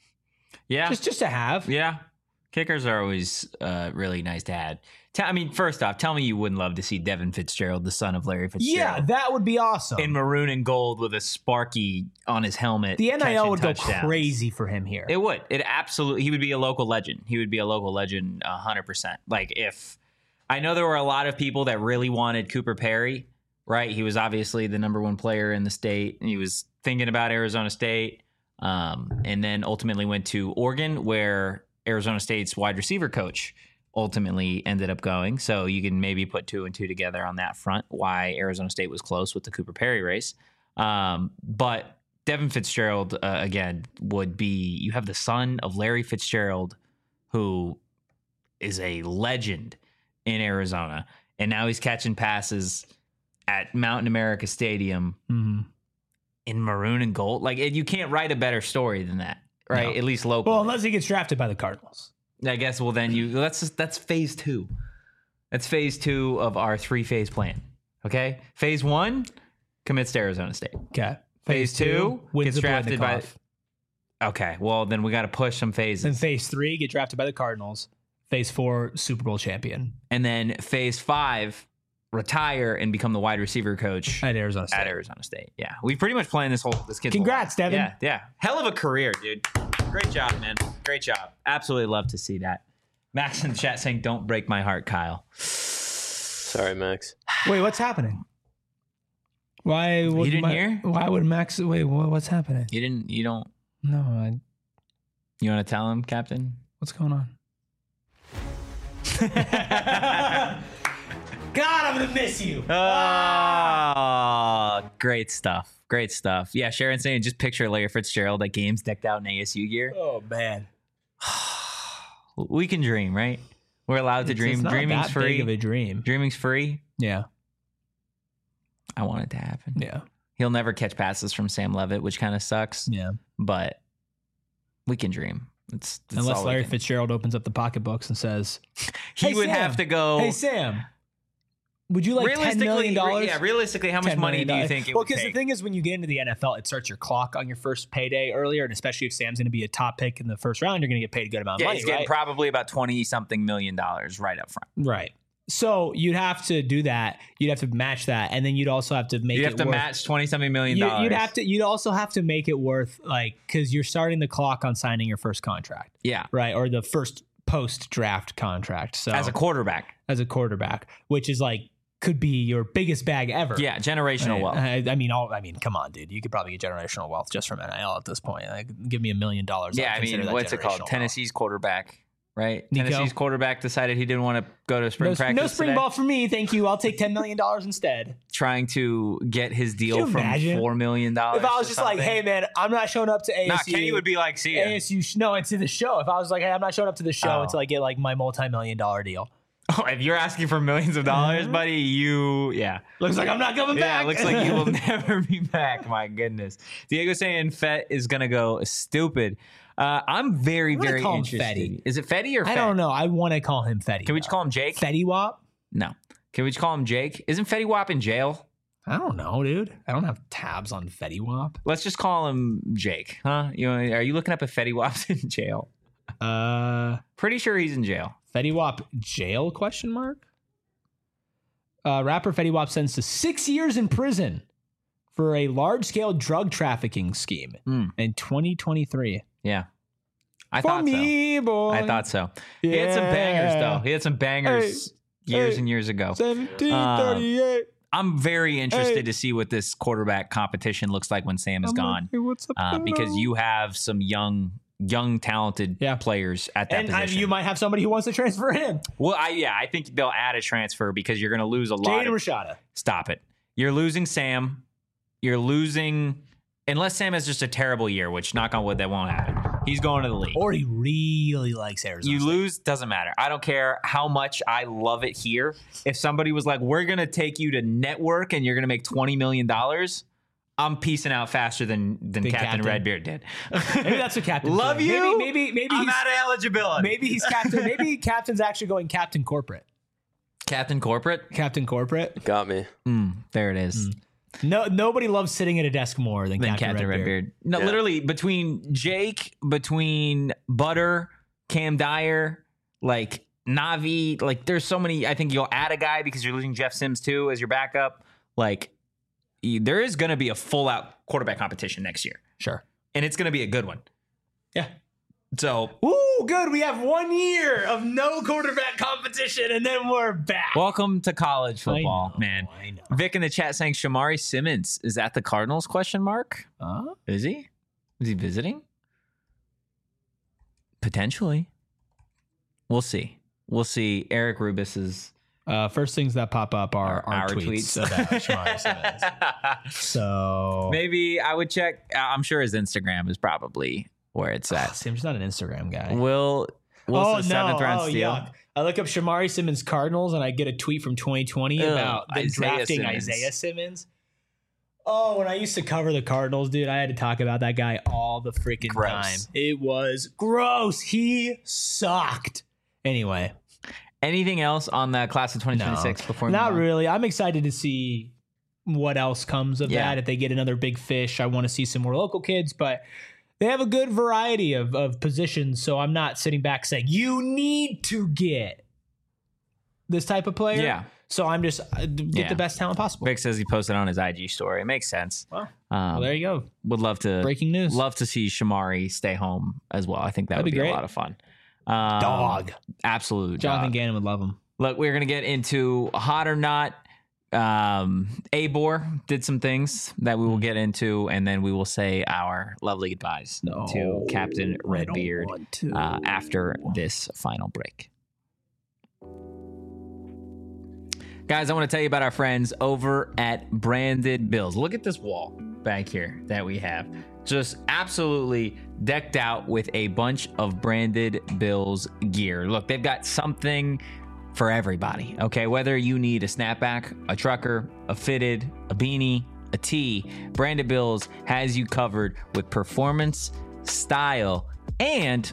Speaker 2: Yeah.
Speaker 1: Just to have.
Speaker 2: Yeah. Kickers are always really nice to have. First off, tell me you wouldn't love to see Devin Fitzgerald, the son of Larry Fitzgerald.
Speaker 1: Yeah, that would be awesome.
Speaker 2: In maroon and gold with a Sparky on his helmet.
Speaker 1: The NIL would go crazy for him here.
Speaker 2: It would. He would be a local legend. He would be a local legend 100%. Like if... I know there were a lot of people that really wanted Cooper Perry, right? He was obviously the number 1 player in the state. And he was thinking about Arizona State, and then ultimately went to Oregon, where Arizona State's wide receiver coach ultimately ended up going. So you can maybe put 2 and 2 together on that front, why Arizona State was close with the Cooper Perry race. But Devin Fitzgerald, again, would be, you have the son of Larry Fitzgerald, who is a legend in Arizona, and now he's catching passes at Mountain America Stadium in maroon and gold. Like, you can't write a better story than that, right? No. At least locally.
Speaker 1: Well, unless he gets drafted by the Cardinals,
Speaker 2: I guess. Well, then that's phase 2. That's phase 2 of our 3-phase plan. Okay, phase 1 commits to Arizona State.
Speaker 1: Okay,
Speaker 2: phase 2 gets drafted by.
Speaker 1: by.
Speaker 2: Okay, well then we got to push some phases.
Speaker 1: Then phase 3 get drafted by the Cardinals. Phase 4, Super Bowl champion.
Speaker 2: And then phase 5, retire and become the wide receiver coach
Speaker 1: at Arizona State.
Speaker 2: Yeah. We pretty much planned this kid's
Speaker 1: Congrats, Devin.
Speaker 2: Yeah. Hell of a career, dude. Great job, man. Great job. Absolutely love to see that. Max in the chat saying, don't break my heart, Kyle.
Speaker 4: Sorry, Max.
Speaker 1: Wait, what's happening? Why would
Speaker 2: you didn't hear?
Speaker 1: Why would Max wait, what's happening?
Speaker 2: You don't
Speaker 1: No,
Speaker 2: you want to tell him, Captain?
Speaker 1: What's going on? God, I'm gonna miss you.
Speaker 2: Oh, great stuff. Great stuff. Yeah, Sharon saying just picture Larry Fitzgerald at games decked out in ASU gear.
Speaker 1: Oh man.
Speaker 2: We can dream, right? We're allowed to dream.
Speaker 1: It's not
Speaker 2: Dreaming's
Speaker 1: that
Speaker 2: free.
Speaker 1: Big of a dream.
Speaker 2: Dreaming's free.
Speaker 1: Yeah.
Speaker 2: I want it to happen.
Speaker 1: Yeah.
Speaker 2: He'll never catch passes from Sam Levitt, which kind of sucks.
Speaker 1: Yeah.
Speaker 2: But We can dream. It's
Speaker 1: Unless
Speaker 2: all
Speaker 1: Larry
Speaker 2: we can.
Speaker 1: Fitzgerald opens up the pocketbooks and says,
Speaker 2: He
Speaker 1: "Hey,
Speaker 2: would
Speaker 1: Sam.
Speaker 2: have to go.
Speaker 1: Hey Sam, would you like $10 million?
Speaker 2: Yeah, realistically, how much
Speaker 1: $10
Speaker 2: money
Speaker 1: million.
Speaker 2: do you think it
Speaker 1: Well,
Speaker 2: would
Speaker 1: because the
Speaker 2: take?
Speaker 1: thing is, when you get into the NFL, it starts your clock on your first payday earlier, and especially if Sam's going to be a top pick in the first round, you're going to get paid a good amount of
Speaker 2: Yeah,
Speaker 1: money,
Speaker 2: he's getting
Speaker 1: right?
Speaker 2: probably about $20-something million right up front.
Speaker 1: Right. So you'd have to do that. You'd have to match that, and then you'd also have to make
Speaker 2: You
Speaker 1: it
Speaker 2: have to
Speaker 1: worth,
Speaker 2: match $20-something million.
Speaker 1: You'd also have to make it worth because you're starting the clock on signing your first contract,
Speaker 2: Yeah,
Speaker 1: right, or the first post draft contract. So
Speaker 2: as a quarterback.
Speaker 1: which is could be your biggest bag ever.
Speaker 2: Yeah, generational wealth.
Speaker 1: I mean, come on, dude. You could probably get generational wealth just from NIL at this point. Give me $1 million.
Speaker 2: Yeah,
Speaker 1: I'd
Speaker 2: I
Speaker 1: consider
Speaker 2: mean,
Speaker 1: that
Speaker 2: what's it called?
Speaker 1: generational wealth.
Speaker 2: Tennessee's quarterback, right?
Speaker 1: Nico?
Speaker 2: Tennessee's quarterback decided he didn't want to go to spring practice.
Speaker 1: No spring
Speaker 2: today,
Speaker 1: ball for me, thank you. I'll take $10 million instead.
Speaker 2: trying to get his deal
Speaker 1: you
Speaker 2: from
Speaker 1: imagine?
Speaker 2: $4 million.
Speaker 1: If I was just like, hey man, I'm not showing up to ASU.
Speaker 2: nah, Kenny would be like, see ya.
Speaker 1: ASU, no, it's to the show. If I was like, hey, I'm not showing up to the show until I get my multi-million-dollar deal.
Speaker 2: Oh, if you're asking for millions of dollars, buddy,
Speaker 1: Looks like I'm not coming
Speaker 2: Yeah,
Speaker 1: back.
Speaker 2: looks like you will never be back. My goodness. Diego saying Fett is going to go stupid. I'm very,
Speaker 1: I'm gonna
Speaker 2: very
Speaker 1: call him
Speaker 2: interested.
Speaker 1: Fetty.
Speaker 2: Is it Fetty or Fett?
Speaker 1: I don't know. I want to call him Fetty.
Speaker 2: Can we just call him Jake?
Speaker 1: Fetty Wap?
Speaker 2: No. Can we just call him Jake? Isn't Fetty Wap in jail?
Speaker 1: I don't know, dude. I don't have tabs on Fetty Wap.
Speaker 2: Let's just call him Jake, huh? Are you looking up if Fetty Wap's in jail? Pretty sure he's in jail.
Speaker 1: Fetty Wap jail? ? Rapper Fetty Wap sentenced to 6 years in prison for a large-scale drug trafficking scheme in 2023.
Speaker 2: Yeah. I
Speaker 1: For
Speaker 2: thought
Speaker 1: me,
Speaker 2: so.
Speaker 1: boy.
Speaker 2: I thought so. He had some bangers, though. He had some bangers years and years ago.
Speaker 1: 1738.
Speaker 2: I'm very interested to see what this quarterback competition looks like when Sam is gone.
Speaker 1: Hey, what's up,
Speaker 2: Because you have some young, talented players at that
Speaker 1: and
Speaker 2: position.
Speaker 1: you might have somebody who wants to transfer in.
Speaker 2: Well, I think they'll add a transfer because you're going to lose a lot.
Speaker 1: Jaden Rashada.
Speaker 2: Stop it. You're losing Sam. You're losing, unless Sam has just a terrible year, which knock on wood, that won't happen. He's going to the league.
Speaker 1: Or he really likes Arizona.
Speaker 2: You
Speaker 1: State.
Speaker 2: lose, doesn't matter. I don't care how much I love it here. If somebody was like, we're going to take you to network and you're going to make $20 million, I'm peacing out faster than Captain Redbeard did.
Speaker 1: Maybe that's what Captain.
Speaker 2: Love you.
Speaker 1: Maybe
Speaker 2: I'm
Speaker 1: he's,
Speaker 2: out of eligibility.
Speaker 1: maybe he's Captain. Maybe Captain's actually going Captain Corporate.
Speaker 2: Captain Corporate?
Speaker 1: Captain Corporate.
Speaker 4: Got me.
Speaker 2: There it is.
Speaker 1: No, nobody loves sitting at a desk more than Captain
Speaker 2: Redbeard. No,
Speaker 4: Yeah.
Speaker 2: literally between Jake, between Butter, Cam Dyer, Navi, there's so many. I think you'll add a guy because you're losing Jeff Sims too as your backup. There is going to be a full out quarterback competition next year.
Speaker 1: Sure.
Speaker 2: And it's going to be a good one.
Speaker 1: Yeah.
Speaker 2: So,
Speaker 1: Ooh, good. We have 1 year of no quarterback competition, and then we're back.
Speaker 2: welcome to college football, man.
Speaker 1: I know.
Speaker 2: Vic in the chat saying Shamari Simmons is at the Cardinals? ? Is he? Is he visiting? Potentially. We'll see. Eric Rubis is
Speaker 1: First things that pop up are our tweets about Shamari Simmons. So
Speaker 2: maybe I would check. I'm sure his Instagram is probably where it's at.
Speaker 1: Sam's not an Instagram guy.
Speaker 2: Will
Speaker 1: Oh,
Speaker 2: seventh
Speaker 1: no.
Speaker 2: round
Speaker 1: Oh,
Speaker 2: steal?
Speaker 1: yuck. I look up Shamari Simmons Cardinals and I get a tweet from 2020 about them
Speaker 2: Isaiah
Speaker 1: drafting
Speaker 2: Simmons.
Speaker 1: Isaiah Simmons. Oh, when I used to cover the Cardinals, dude, I had to talk about that guy all the freaking
Speaker 2: Gross.
Speaker 1: time. It was gross. He sucked. Anyway.
Speaker 2: Anything else on the class of 2026 before we
Speaker 1: Not
Speaker 2: move on?
Speaker 1: really. I'm excited to see what else comes of
Speaker 2: Yeah.
Speaker 1: that. If they get another big fish, I want to see some more local kids, but they have a good variety of positions. So I'm not sitting back saying, you need to get this type of player.
Speaker 2: Yeah.
Speaker 1: So I'm just get the best talent possible.
Speaker 2: Vic says he posted on his IG story. It makes sense.
Speaker 1: Well, there you go.
Speaker 2: Would love to
Speaker 1: Breaking news.
Speaker 2: Love to see Shamari stay home as well. I think that
Speaker 1: That'd
Speaker 2: would
Speaker 1: be
Speaker 2: be
Speaker 1: great.
Speaker 2: a lot of fun.
Speaker 1: Dog.
Speaker 2: Absolute
Speaker 1: Jonathan
Speaker 2: dog.
Speaker 1: Gannon would love him.
Speaker 2: Look, we're gonna get into hot or not. Abor did some things that we will get into, and then we will say our lovely goodbyes to Captain Redbeard after this final break. Guys, I want to tell you about our friends over at Branded Bills. Look at this wall back here that we have. Just absolutely decked out with a bunch of Branded Bills gear. Look, they've got something for everybody, okay? Whether you need a snapback, a trucker, a fitted, a beanie, a tee, Branded Bills has you covered with performance, style, and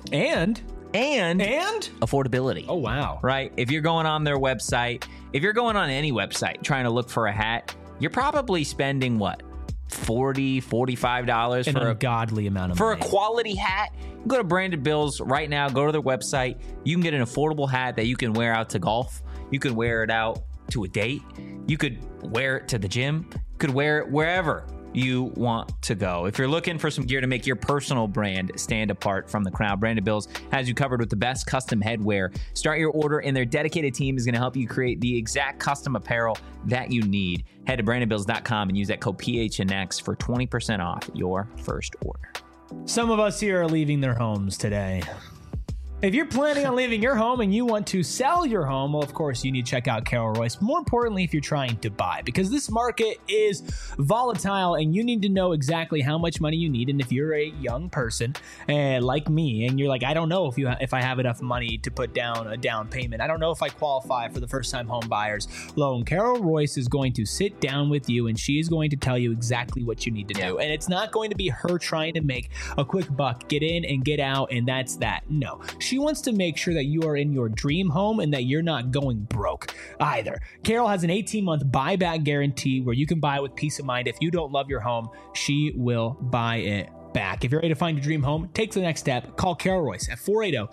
Speaker 2: affordability.
Speaker 1: Oh, wow.
Speaker 2: Right? If you're going on their website, if you're going on any website trying to look for a hat, you're probably spending what? $40, $45
Speaker 1: An
Speaker 2: for a
Speaker 1: ungodly amount of
Speaker 2: for
Speaker 1: money.
Speaker 2: a quality hat. Go to Branded Bills right now. Go to their website. You can get an affordable hat that you can wear out to golf. You can wear it out to a date. You could wear it to the gym. You could wear it wherever you want to go. If you're looking for some gear to make your personal brand stand apart from the crowd, Branded Bills has you covered with the best custom headwear. Start your order and their dedicated team is going to help you create the exact custom apparel that you need. Head to brandedbills.com and use that code PHNX for 20% off your first order.
Speaker 1: Some of us here are leaving their homes today. If you're planning on leaving your home and you want to sell your home, well, of course, you need to check out Carol Royce. More importantly, if you're trying to buy, because this market is volatile and you need to know exactly how much money you need. And if you're a young person like me, and you're like, I don't know if I have enough money to put down a down payment. I don't know if I qualify for the first-time home buyers loan. Carol Royce is going to sit down with you and she is going to tell you exactly what you need to do. And it's not going to be her trying to make a quick buck, get in and get out, and that's that. No. She wants to make sure that you are in your dream home and that you're not going broke either. Carol has an 18-month buyback guarantee where you can buy with peace of mind. If you don't love your home, she will buy it back. If you're ready to find your dream home, take the next step. Call Carol Royce at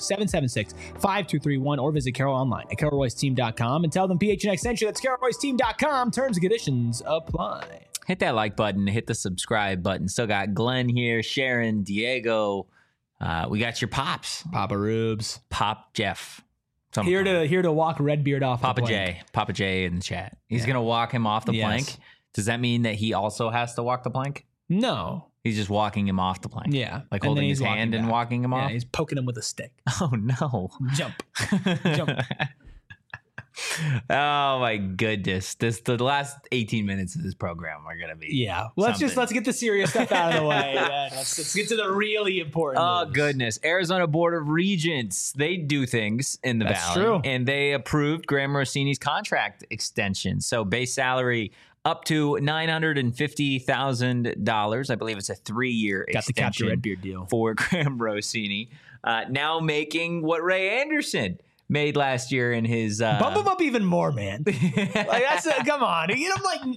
Speaker 1: 480-776-5231 or visit Carol online at carolroyceteam.com and tell them PHNX sent you. That's carolroyceteam.com. Terms and conditions apply.
Speaker 2: Hit that like button, hit the subscribe button. Still got Glenn here, Sharon, Diego. We got your pops,
Speaker 1: Papa Rubes,
Speaker 2: Pop Jeff.
Speaker 1: Here to walk Redbeard off
Speaker 2: Papa
Speaker 1: the
Speaker 2: J, Papa J in the chat. He's gonna walk him off the plank. Does that mean that he also has to walk the plank?
Speaker 1: No.
Speaker 2: He's just walking him off the plank.
Speaker 1: Yeah.
Speaker 2: Like holding his hand and walking him off?
Speaker 1: He's poking him with a stick.
Speaker 2: Oh, no.
Speaker 1: Jump. Jump.
Speaker 2: Oh, my goodness. The last 18 minutes of this program are going to be
Speaker 1: let's get the serious stuff out of the way. Let's get to the really important news.
Speaker 2: Goodness. Arizona Board of Regents, they do things in the
Speaker 1: That's
Speaker 2: Valley.
Speaker 1: true.
Speaker 2: And they approved Graham Rossini's contract extension. So base salary up to $950,000. I believe it's a 3-year extension.
Speaker 1: Got the Captain Redbeard deal
Speaker 2: for Graham Rossini. Now making what Ray Anderson made last year in his
Speaker 1: bump him up even more, man. Come on, give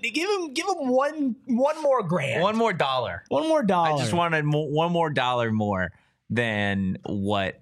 Speaker 1: him one more grand,
Speaker 2: $1 more dollar. I just wanted $1 more dollar more than what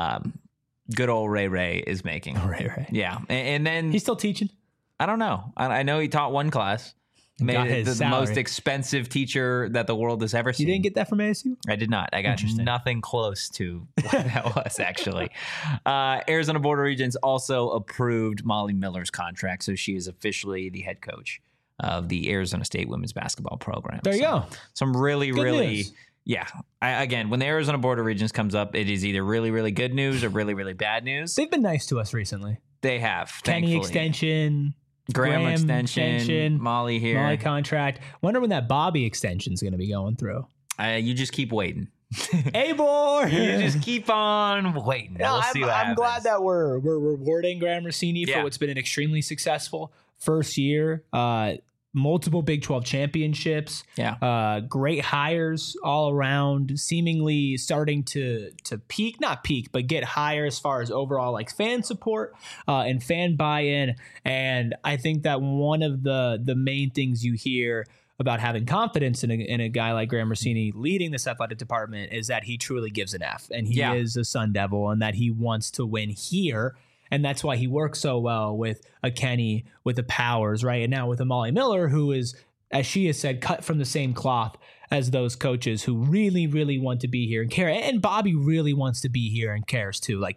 Speaker 2: good old Ray is making.
Speaker 1: Ray.
Speaker 2: Yeah, and then
Speaker 1: he's still teaching.
Speaker 2: I don't know. I know he taught one class. Made it the most expensive teacher that the world has ever seen.
Speaker 1: You didn't get that from ASU?
Speaker 2: I did not. I got nothing close to what that was, actually. Arizona Board of Regents also approved Molly Miller's contract, so she is officially the head coach of the Arizona State women's basketball program.
Speaker 1: There you go.
Speaker 2: Some really
Speaker 1: good
Speaker 2: really
Speaker 1: news.
Speaker 2: Yeah. Again, when the Arizona Board of Regents comes up, it is either really, really good news or really, really bad news.
Speaker 1: They've been nice to us recently.
Speaker 2: They have.
Speaker 1: Kenny
Speaker 2: thankfully.
Speaker 1: extension.
Speaker 2: Graham extension, Molly here.
Speaker 1: Molly contract. Wonder when that Bobby extension is going to be going through.
Speaker 2: You just keep waiting.
Speaker 1: Hey, boy.
Speaker 2: You just keep on waiting. We'll see what happens.
Speaker 1: I'm glad that we're rewarding Graham Rossini for what's been an extremely successful first year. Multiple Big 12 championships.
Speaker 2: Yeah.
Speaker 1: Great hires all around, seemingly starting to peak, not peak, but get higher as far as overall like fan support and fan buy-in. And I think that one of the main things you hear about having confidence in a guy like Graham Rossini leading this athletic department is that he truly gives an F, and he is a Sun Devil, and that he wants to win here. And that's why he works so well with a Kenny, with the Powers, right? And now with a Molly Miller, who is, as she has said, cut from the same cloth as those coaches who really, really want to be here and care. And Bobby really wants to be here and cares too. Like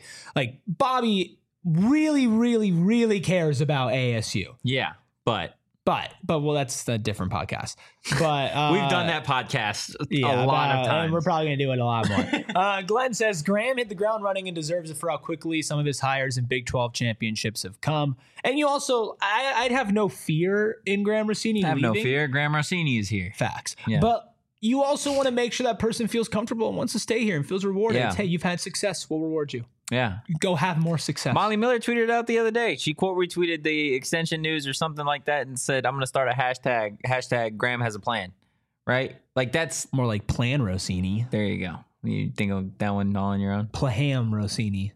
Speaker 1: Bobby really, really, really cares about ASU.
Speaker 2: Yeah, but
Speaker 1: well, that's a different podcast. But
Speaker 2: we've done that podcast a lot of times.
Speaker 1: And we're probably going to do it a lot more. Glenn says Graham hit the ground running and deserves it for how quickly some of his hires in Big 12 championships have come. And you also, I'd have no fear in Graham Rossini leaving.
Speaker 2: No fear. Graham Rossini is here.
Speaker 1: Facts.
Speaker 2: Yeah.
Speaker 1: But you also want to make sure that person feels comfortable and wants to stay here and feels rewarded.
Speaker 2: Yeah.
Speaker 1: It's, hey, you've had success. We'll reward you.
Speaker 2: Yeah.
Speaker 1: Go have more success.
Speaker 2: Molly Miller tweeted it out the other day. She quote retweeted the extension news or something like that and said, I'm going to start a hashtag Graham has a plan. Right? Like that's
Speaker 1: more like Plan Rossini.
Speaker 2: There you go. You think of that one all on your own?
Speaker 1: Plaham Rossini.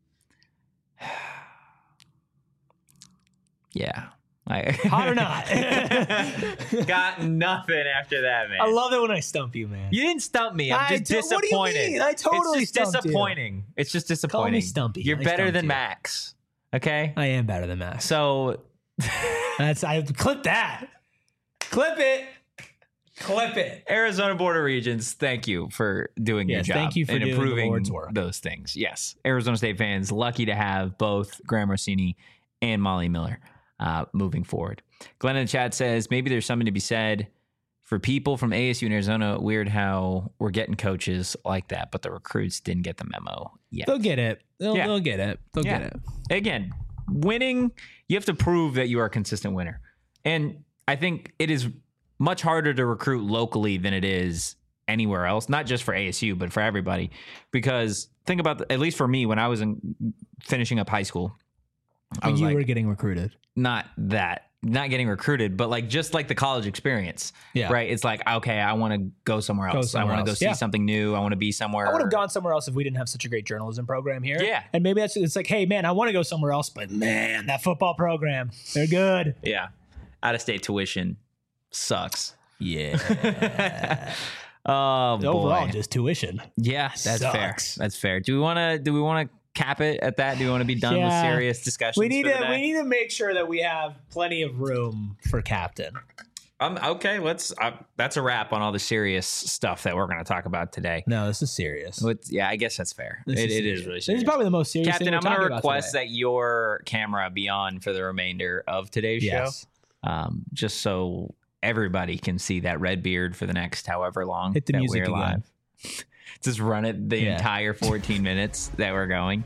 Speaker 2: Yeah.
Speaker 1: Hot or not?
Speaker 2: Got nothing after that, man.
Speaker 1: I love it when I stump you, man.
Speaker 2: You didn't stump me. I'm just disappointed.
Speaker 1: What do you mean? I totally
Speaker 2: it's just
Speaker 1: stumped
Speaker 2: disappointing. It's just disappointing.
Speaker 1: Call me Stumpy.
Speaker 2: You're
Speaker 1: I
Speaker 2: better
Speaker 1: stumped
Speaker 2: than
Speaker 1: you.
Speaker 2: Max. Okay?
Speaker 1: I am better than Max.
Speaker 2: So
Speaker 1: I clip that. Clip it. Clip it.
Speaker 2: Arizona Border Regions, thank you for doing your
Speaker 1: Yes,
Speaker 2: job.
Speaker 1: thank you for
Speaker 2: and
Speaker 1: doing the
Speaker 2: improving
Speaker 1: Lord's work.
Speaker 2: those things. Yes. Arizona State fans, lucky to have both Graham Rossini and Molly Miller moving forward. Glenn in the chat says, maybe there's something to be said for people from ASU and Arizona. Weird how we're getting coaches like that, but the recruits didn't get the memo yet.
Speaker 1: They'll get it. They'll
Speaker 2: Yeah.
Speaker 1: get it. They'll
Speaker 2: Yeah.
Speaker 1: get it.
Speaker 2: Again, winning, you have to prove that you are a consistent winner. And I think it is much harder to recruit locally than it is anywhere else, not just for ASU, but for everybody. Because think about, at least for me, when I was finishing up high school, I
Speaker 1: And
Speaker 2: was
Speaker 1: you
Speaker 2: like,
Speaker 1: were getting recruited.
Speaker 2: not getting recruited, but like just like the college experience,
Speaker 1: Yeah.
Speaker 2: right? It's like, okay, I want to go somewhere else. I want to go see something new. I want to be somewhere.
Speaker 1: I would have gone somewhere else if we didn't have such a great journalism program here.
Speaker 2: Yeah.
Speaker 1: And maybe it's like, hey, man, I want to go somewhere else, but man, that football program, they're good.
Speaker 2: Yeah. Out of state tuition sucks.
Speaker 1: Yeah.
Speaker 2: Oh boy.
Speaker 1: Overall, just tuition.
Speaker 2: Yeah, that's fair.
Speaker 1: Sucks.
Speaker 2: That's fair. Do we want to cap it at that? Do we want to be done with
Speaker 1: Yeah.
Speaker 2: serious discussions?
Speaker 1: We need
Speaker 2: for the
Speaker 1: to
Speaker 2: day?
Speaker 1: make sure that we have plenty of room for captain.
Speaker 2: Okay, let's. That's a wrap on all the serious stuff that we're going to talk about today.
Speaker 1: No, this is serious.
Speaker 2: Yeah, I guess that's fair.
Speaker 1: This
Speaker 2: It is
Speaker 1: serious.
Speaker 2: really
Speaker 1: This
Speaker 2: serious.
Speaker 1: is probably the most serious
Speaker 2: Captain,
Speaker 1: thing
Speaker 2: I'm going to
Speaker 1: to
Speaker 2: request that your camera be on for the remainder of today's
Speaker 1: Yes.
Speaker 2: show, just so everybody can see that red beard for the next however long
Speaker 1: Hit the
Speaker 2: that
Speaker 1: music
Speaker 2: we're
Speaker 1: again.
Speaker 2: live. Just run it the
Speaker 1: Yeah.
Speaker 2: entire 14 minutes that we're going.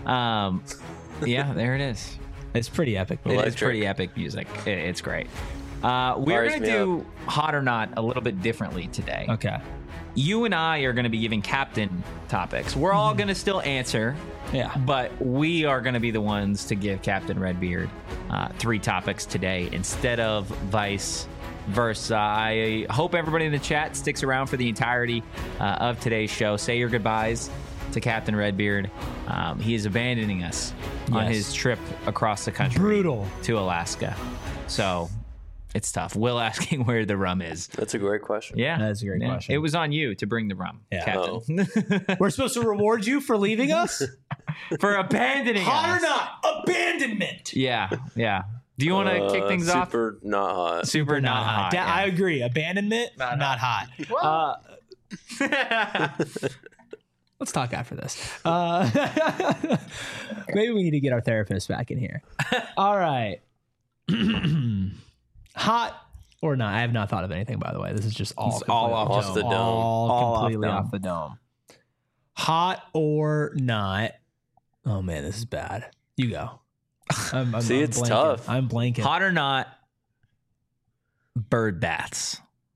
Speaker 2: Yeah, there it is.
Speaker 1: It's pretty epic.
Speaker 2: It is
Speaker 4: Electric.
Speaker 2: pretty epic music. It's great. We're
Speaker 4: Fires
Speaker 2: going to
Speaker 4: me
Speaker 2: do Hot or Not a little bit differently today.
Speaker 1: Okay.
Speaker 2: You and I are going to be giving captain topics. We're all going to still answer,
Speaker 1: Yeah.
Speaker 2: but we are going to be the ones to give Captain Redbeard 3 topics today instead of vice versa. I hope everybody in the chat sticks around for the entirety of today's show. Say your goodbyes to Captain Redbeard. He is abandoning us on
Speaker 1: Yes.
Speaker 2: his trip across the country
Speaker 1: Brutal.
Speaker 2: to Alaska. So it's tough. Will asking where the rum is.
Speaker 4: That's a great question.
Speaker 2: Yeah.
Speaker 1: That's a great question.
Speaker 2: It was on you to bring the rum,
Speaker 1: Yeah.
Speaker 2: Captain.
Speaker 1: We're supposed to reward you for leaving us?
Speaker 2: For abandoning
Speaker 1: Hot
Speaker 2: us.
Speaker 1: or not? Abandonment.
Speaker 2: Yeah, yeah. Do you want to kick things off?
Speaker 4: Super not hot.
Speaker 2: Super not hot.
Speaker 1: Da- I agree. Abandonment, not hot. Let's talk after this. Maybe we need to get our therapist back in here. All right. Hot or not? I have not thought of anything, by the way. This is just all,
Speaker 2: It's all
Speaker 4: off the dome.
Speaker 1: All
Speaker 2: All
Speaker 1: completely
Speaker 2: off
Speaker 1: off the dome. Hot or not? Oh, man, this is bad. You go. I'm
Speaker 4: See, it's
Speaker 1: blanking.
Speaker 4: tough.
Speaker 1: I'm blanking.
Speaker 2: Hot or not, bird baths.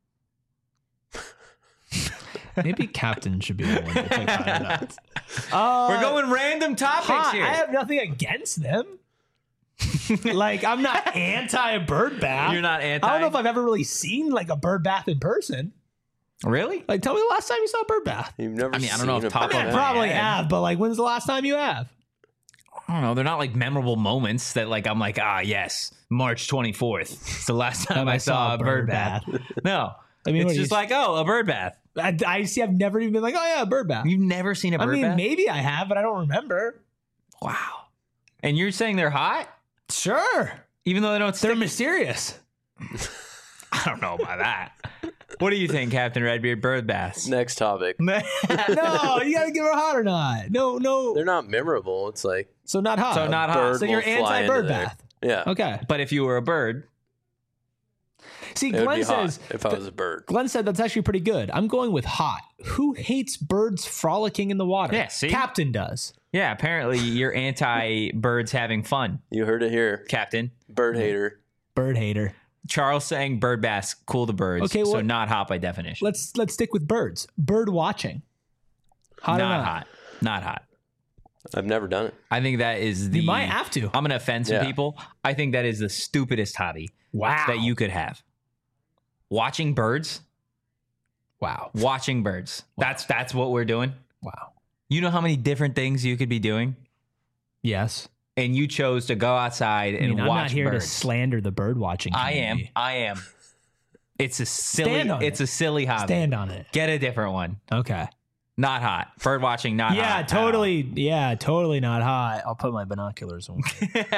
Speaker 1: Maybe Captain should be the one to pick hot or not.
Speaker 2: We're going random topics
Speaker 1: Hot.
Speaker 2: here.
Speaker 1: I have nothing against them. Like, I'm not anti a bird bath.
Speaker 2: You're not anti?
Speaker 1: I don't know if I've ever really seen like a bird bath in person.
Speaker 2: Really?
Speaker 1: Like, tell me the last time you saw a bird bath.
Speaker 4: You've never
Speaker 2: I mean, I don't
Speaker 4: seen
Speaker 2: know if
Speaker 4: a
Speaker 2: top
Speaker 4: bird
Speaker 2: of
Speaker 1: I
Speaker 2: my
Speaker 4: bath.
Speaker 1: probably
Speaker 2: head.
Speaker 1: have, but like, when's the last time you have?
Speaker 2: I don't know. They're not like memorable moments that like I'm like, yes, March 24th. It's the last time I saw a bird bath. No.
Speaker 1: I mean,
Speaker 2: It's
Speaker 1: what,
Speaker 2: just like, a bird bath.
Speaker 1: I see. I've never even been like, oh yeah, a bird bath.
Speaker 2: You've never seen a bird
Speaker 1: I mean,
Speaker 2: bath?
Speaker 1: maybe I have, but I don't remember.
Speaker 2: Wow. And you're saying they're hot?
Speaker 1: Sure,
Speaker 2: Even though they don't
Speaker 1: they're
Speaker 2: stick?
Speaker 1: mysterious.
Speaker 2: I don't know about that. What do you think, Captain Redbeard? Bird baths.
Speaker 4: Next topic.
Speaker 1: No, you gotta give her hot or not. No.
Speaker 4: They're not memorable. It's like
Speaker 1: So not hot.
Speaker 2: So not hot.
Speaker 4: bird
Speaker 1: So you're
Speaker 4: will fly
Speaker 1: anti-bird
Speaker 4: into there.
Speaker 1: bath.
Speaker 4: Yeah.
Speaker 1: Okay.
Speaker 2: But if you were a bird,
Speaker 1: See,
Speaker 4: It would
Speaker 1: Glenn
Speaker 4: be hot
Speaker 1: says.
Speaker 4: if I was a bird.
Speaker 1: Glenn said that's actually pretty good. I'm going with hot. Who hates birds frolicking in the water?
Speaker 2: Yeah, see?
Speaker 1: Captain does.
Speaker 2: yeah, apparently you're anti birds having fun,
Speaker 4: You heard it here.
Speaker 2: Captain.
Speaker 4: Bird hater.
Speaker 1: Bird hater.
Speaker 2: Charles saying bird baths cool the birds.
Speaker 1: Okay,
Speaker 2: so
Speaker 1: well-
Speaker 2: not hot by definition.
Speaker 1: Let's stick with birds. Bird watching. Hot or
Speaker 2: not
Speaker 1: not?
Speaker 2: hot. Not hot.
Speaker 4: I've never done it.
Speaker 2: I think that is the.
Speaker 1: You might have to.
Speaker 2: I'm gonna offend some
Speaker 4: Yeah.
Speaker 2: people. I think that is the stupidest hobby
Speaker 1: Wow.
Speaker 2: that you could have. Watching birds.
Speaker 1: Wow.
Speaker 2: Watching birds. That's what we're doing.
Speaker 1: Wow.
Speaker 2: You know how many different things you could be doing?
Speaker 1: Yes.
Speaker 2: And you chose to go outside and
Speaker 1: I'm
Speaker 2: watch
Speaker 1: not here
Speaker 2: birds.
Speaker 1: to slander the bird watching community.
Speaker 2: I am. It's a silly
Speaker 1: Stand on it.
Speaker 2: a silly hobby.
Speaker 1: Stand on it.
Speaker 2: Get a different one.
Speaker 1: Okay.
Speaker 2: Not hot. Bird watching, not hot.
Speaker 1: Yeah,
Speaker 2: at all.
Speaker 1: totally. Yeah, totally not hot. I'll put my binoculars on.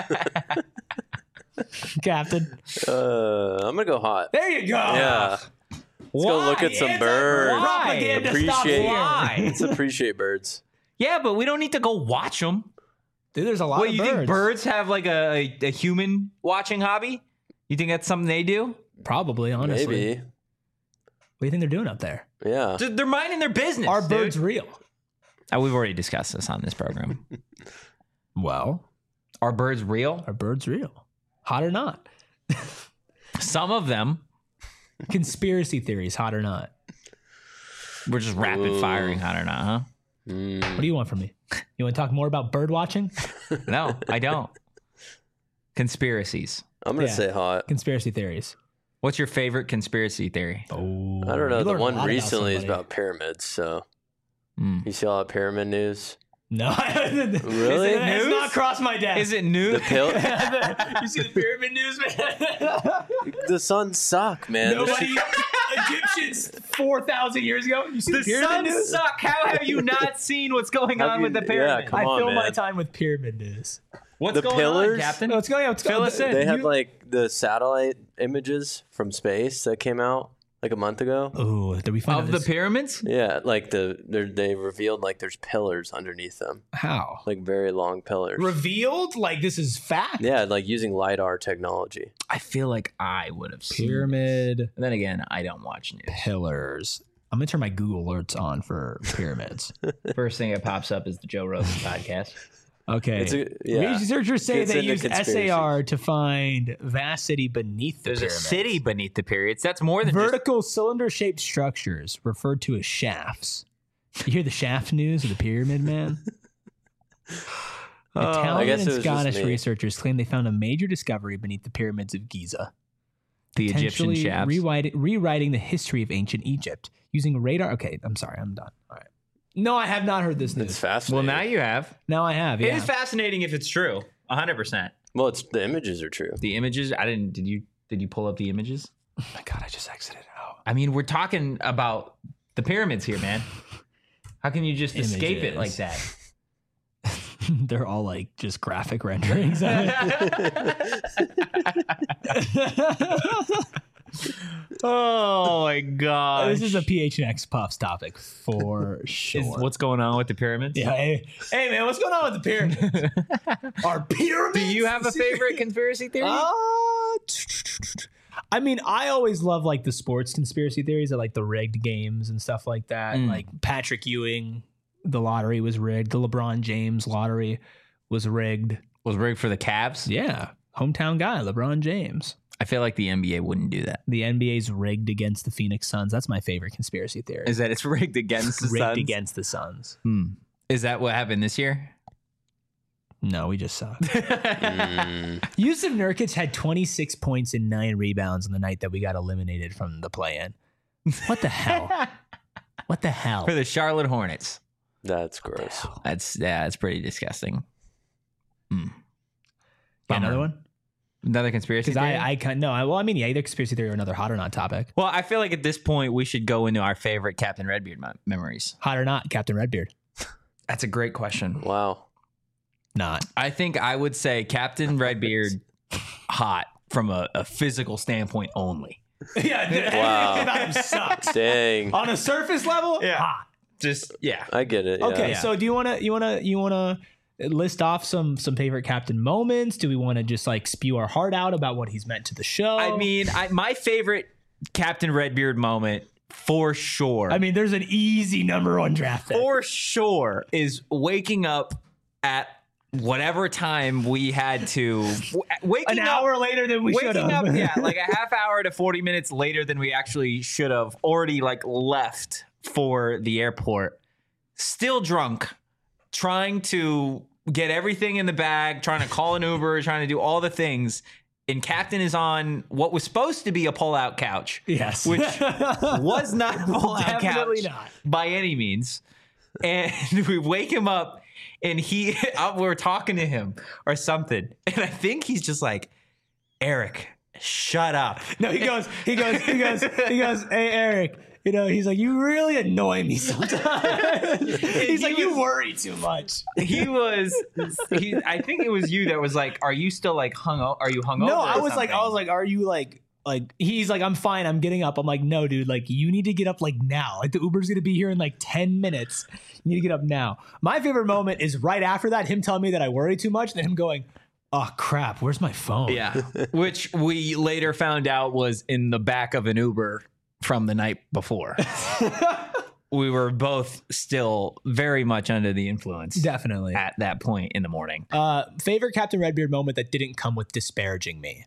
Speaker 1: Captain.
Speaker 4: I'm gonna go hot.
Speaker 1: There you go.
Speaker 4: Yeah. Let's go look at some birds.
Speaker 1: Propaganda
Speaker 4: Appreciate
Speaker 1: stops here.
Speaker 2: Why?
Speaker 4: Let's appreciate birds.
Speaker 2: Yeah, but we don't need to go watch them.
Speaker 1: Dude, there's a lot
Speaker 2: What,
Speaker 1: of
Speaker 2: you
Speaker 1: birds.
Speaker 2: think birds have like a human watching hobby? You think that's something they do?
Speaker 1: Probably, honestly.
Speaker 4: Maybe.
Speaker 1: What do you think they're doing up there?
Speaker 4: Yeah.
Speaker 2: They're minding their business.
Speaker 1: Are
Speaker 2: dude.
Speaker 1: birds real?
Speaker 2: We've already discussed this on this program.
Speaker 1: Well,
Speaker 2: Are birds real?
Speaker 1: are birds real? Hot or not?
Speaker 2: Some of them.
Speaker 1: Conspiracy theories, hot or not?
Speaker 2: We're just rapid firing, hot or not, huh?
Speaker 1: What do you want from me? You want to talk more about bird watching?
Speaker 2: No, I don't. Conspiracies.
Speaker 4: I'm gonna
Speaker 1: Yeah.
Speaker 4: say hot.
Speaker 1: Conspiracy theories.
Speaker 2: What's your favorite conspiracy theory?
Speaker 1: Oh,
Speaker 4: I don't know.
Speaker 1: you
Speaker 4: The
Speaker 1: learn a
Speaker 4: one
Speaker 1: lot about
Speaker 4: recently is
Speaker 1: somebody.
Speaker 4: about pyramids. So
Speaker 2: Mm.
Speaker 4: you see all that pyramid news?
Speaker 1: No,
Speaker 4: Really?
Speaker 1: It's
Speaker 2: News?
Speaker 1: not crossed my desk.
Speaker 2: Is it new?
Speaker 4: The pill.
Speaker 1: You see the pyramid news, man?
Speaker 4: The suns suck, man. This
Speaker 1: Nobody,
Speaker 4: shit-
Speaker 1: Egyptians 4,000 years ago. You see the,
Speaker 2: The
Speaker 1: pyramid
Speaker 2: suns
Speaker 1: news?
Speaker 2: suck. How have you not seen what's going
Speaker 4: Have
Speaker 2: on
Speaker 4: you-
Speaker 2: with the
Speaker 4: yeah,
Speaker 2: pyramid?
Speaker 4: come
Speaker 1: I
Speaker 4: on,
Speaker 1: fill my
Speaker 4: man.
Speaker 1: time with pyramid news.
Speaker 2: What's
Speaker 4: The
Speaker 2: going
Speaker 4: pillars?
Speaker 2: on, Captain?
Speaker 1: What's going on? What's
Speaker 2: Fill
Speaker 1: going
Speaker 2: us
Speaker 1: on?
Speaker 2: in.
Speaker 4: They had
Speaker 1: You-
Speaker 4: like the satellite images from space that came out like a month ago.
Speaker 1: Oh, did we find
Speaker 2: Of
Speaker 1: out
Speaker 2: the
Speaker 1: this-
Speaker 2: pyramids?
Speaker 4: Yeah, like they revealed like there's pillars underneath them,
Speaker 1: How?
Speaker 4: like very long pillars.
Speaker 1: Revealed? Like this is fact?
Speaker 4: Yeah, like using lidar technology.
Speaker 2: I feel like I would have seen.
Speaker 1: Pyramid
Speaker 2: And then again, I don't watch news.
Speaker 1: pillars. I'm gonna turn my Google alerts on for pyramids.
Speaker 2: First thing that pops up is the Joe Rogan podcast.
Speaker 1: Okay.
Speaker 4: Yeah.
Speaker 1: Researchers say
Speaker 4: Gets
Speaker 1: they
Speaker 4: into
Speaker 1: used
Speaker 4: conspiracies.
Speaker 1: SAR to find vast city beneath the
Speaker 2: There's a
Speaker 1: pyramids.
Speaker 2: city beneath the pyramids. That's more than just
Speaker 1: Vertical cylinder-shaped structures referred to as shafts. You hear the shaft news of the pyramid, man?
Speaker 4: I
Speaker 1: Italian
Speaker 4: guess it
Speaker 1: and
Speaker 4: was just
Speaker 1: Scottish
Speaker 4: me.
Speaker 1: researchers claim they found a major discovery beneath the pyramids of Giza,
Speaker 2: the Egyptian
Speaker 1: potentially
Speaker 2: shafts.
Speaker 1: rewriting the history of ancient Egypt using radar. Okay, I'm sorry, I'm done. All right. No, I have not heard this
Speaker 4: It's
Speaker 1: news.
Speaker 2: Well,
Speaker 4: fascinating.
Speaker 2: now you have.
Speaker 1: Now I have.
Speaker 2: It
Speaker 1: Yeah.
Speaker 2: is fascinating if it's true. 100%.
Speaker 4: Well, it's the images are true.
Speaker 2: The images, I didn't. Did you pull up the images?
Speaker 1: Oh my God, I just exited out.
Speaker 2: I mean, we're talking about the pyramids here, man. How can you just escape it like
Speaker 1: Images.
Speaker 2: that?
Speaker 1: They're all like just graphic renderings.
Speaker 2: Oh my god!
Speaker 1: This is a PHNX Puffs topic for sure.
Speaker 2: What's going on with the pyramids?
Speaker 1: Yeah, hey man, what's going on with the pyramids? Are pyramids?
Speaker 2: Do you have a favorite conspiracy theory?
Speaker 1: I mean, I always love like the sports conspiracy theories of like the rigged games and stuff like that.
Speaker 2: Mm.
Speaker 1: Like Patrick Ewing, the lottery was rigged. The LeBron James lottery was rigged.
Speaker 2: Was rigged for the Cavs?
Speaker 1: Yeah, hometown guy, LeBron James.
Speaker 2: I feel like the NBA wouldn't do that.
Speaker 1: The NBA's rigged against the Phoenix Suns. That's my favorite conspiracy theory.
Speaker 2: Is that it's rigged against the
Speaker 1: rigged
Speaker 2: Suns?
Speaker 1: against the Suns.
Speaker 2: Is that what happened this year?
Speaker 1: No, we just suck.
Speaker 4: Mm.
Speaker 1: Yusuf Nurkic had 26 points and 9 rebounds on the night that we got eliminated from the play-in. What the hell? What the hell?
Speaker 2: For the Charlotte Hornets.
Speaker 4: That's gross.
Speaker 2: That's pretty disgusting.
Speaker 1: Yeah, another one?
Speaker 2: Another conspiracy
Speaker 1: Because
Speaker 2: theory?
Speaker 1: I can't. No, well, I mean, yeah, either conspiracy theory or another hot or not topic.
Speaker 2: Well, I feel like at this point we should go into our favorite Captain Redbeard memories.
Speaker 1: Hot or not, Captain Redbeard?
Speaker 2: That's a great question.
Speaker 4: Wow.
Speaker 1: Not.
Speaker 2: I think I would say Captain Redbeard hot from a physical standpoint only.
Speaker 1: Yeah,
Speaker 4: Wow.
Speaker 1: everything about him sucks.
Speaker 4: Dang.
Speaker 1: On a surface level,
Speaker 2: Yeah.
Speaker 1: hot.
Speaker 2: Just yeah.
Speaker 4: I get it.
Speaker 1: Okay,
Speaker 4: Yeah.
Speaker 1: so do you wanna list off some favorite Captain moments? Do we want to just like spew our heart out about what he's meant to the show?
Speaker 2: I mean, my favorite Captain Redbeard moment for sure.
Speaker 1: I mean, there's an easy number 1 draft pick.
Speaker 2: for sure is waking up at whatever time we had to waking
Speaker 1: An
Speaker 2: up
Speaker 1: hour later than we should
Speaker 2: waking
Speaker 1: have.
Speaker 2: up yeah like a half hour to 40 minutes later than we actually should have already like left for the airport, still drunk, trying to get everything in the bag, trying to call an Uber, trying to do all the things, and Captain is on what was supposed to be a pull-out couch.
Speaker 1: Yes.
Speaker 2: Which was not a pull-out couch.
Speaker 1: Definitely not.
Speaker 2: By any means. And we wake him up, and we're talking to him or something. And I think he's just like, Eric, shut up.
Speaker 1: No, he goes, hey, Eric, you know, he's like, you really annoy me sometimes. He's like, you worry too much.
Speaker 2: I think it was you that was like, are you still like are you hungover?
Speaker 1: No, I was like, are you like, he's like, I'm fine, I'm getting up. I'm like, no, dude, like, you need to get up like now. Like, the Uber's gonna be here in like 10 minutes. You need to get up now. My favorite moment is right after that, him telling me that I worry too much, then him going, oh crap, where's my phone?
Speaker 2: Yeah, which we later found out was in the back of an Uber from the night before. We were both still very much under the influence.
Speaker 1: Definitely.
Speaker 2: At that point in the morning.
Speaker 1: Favorite Captain Redbeard moment that didn't come with disparaging me.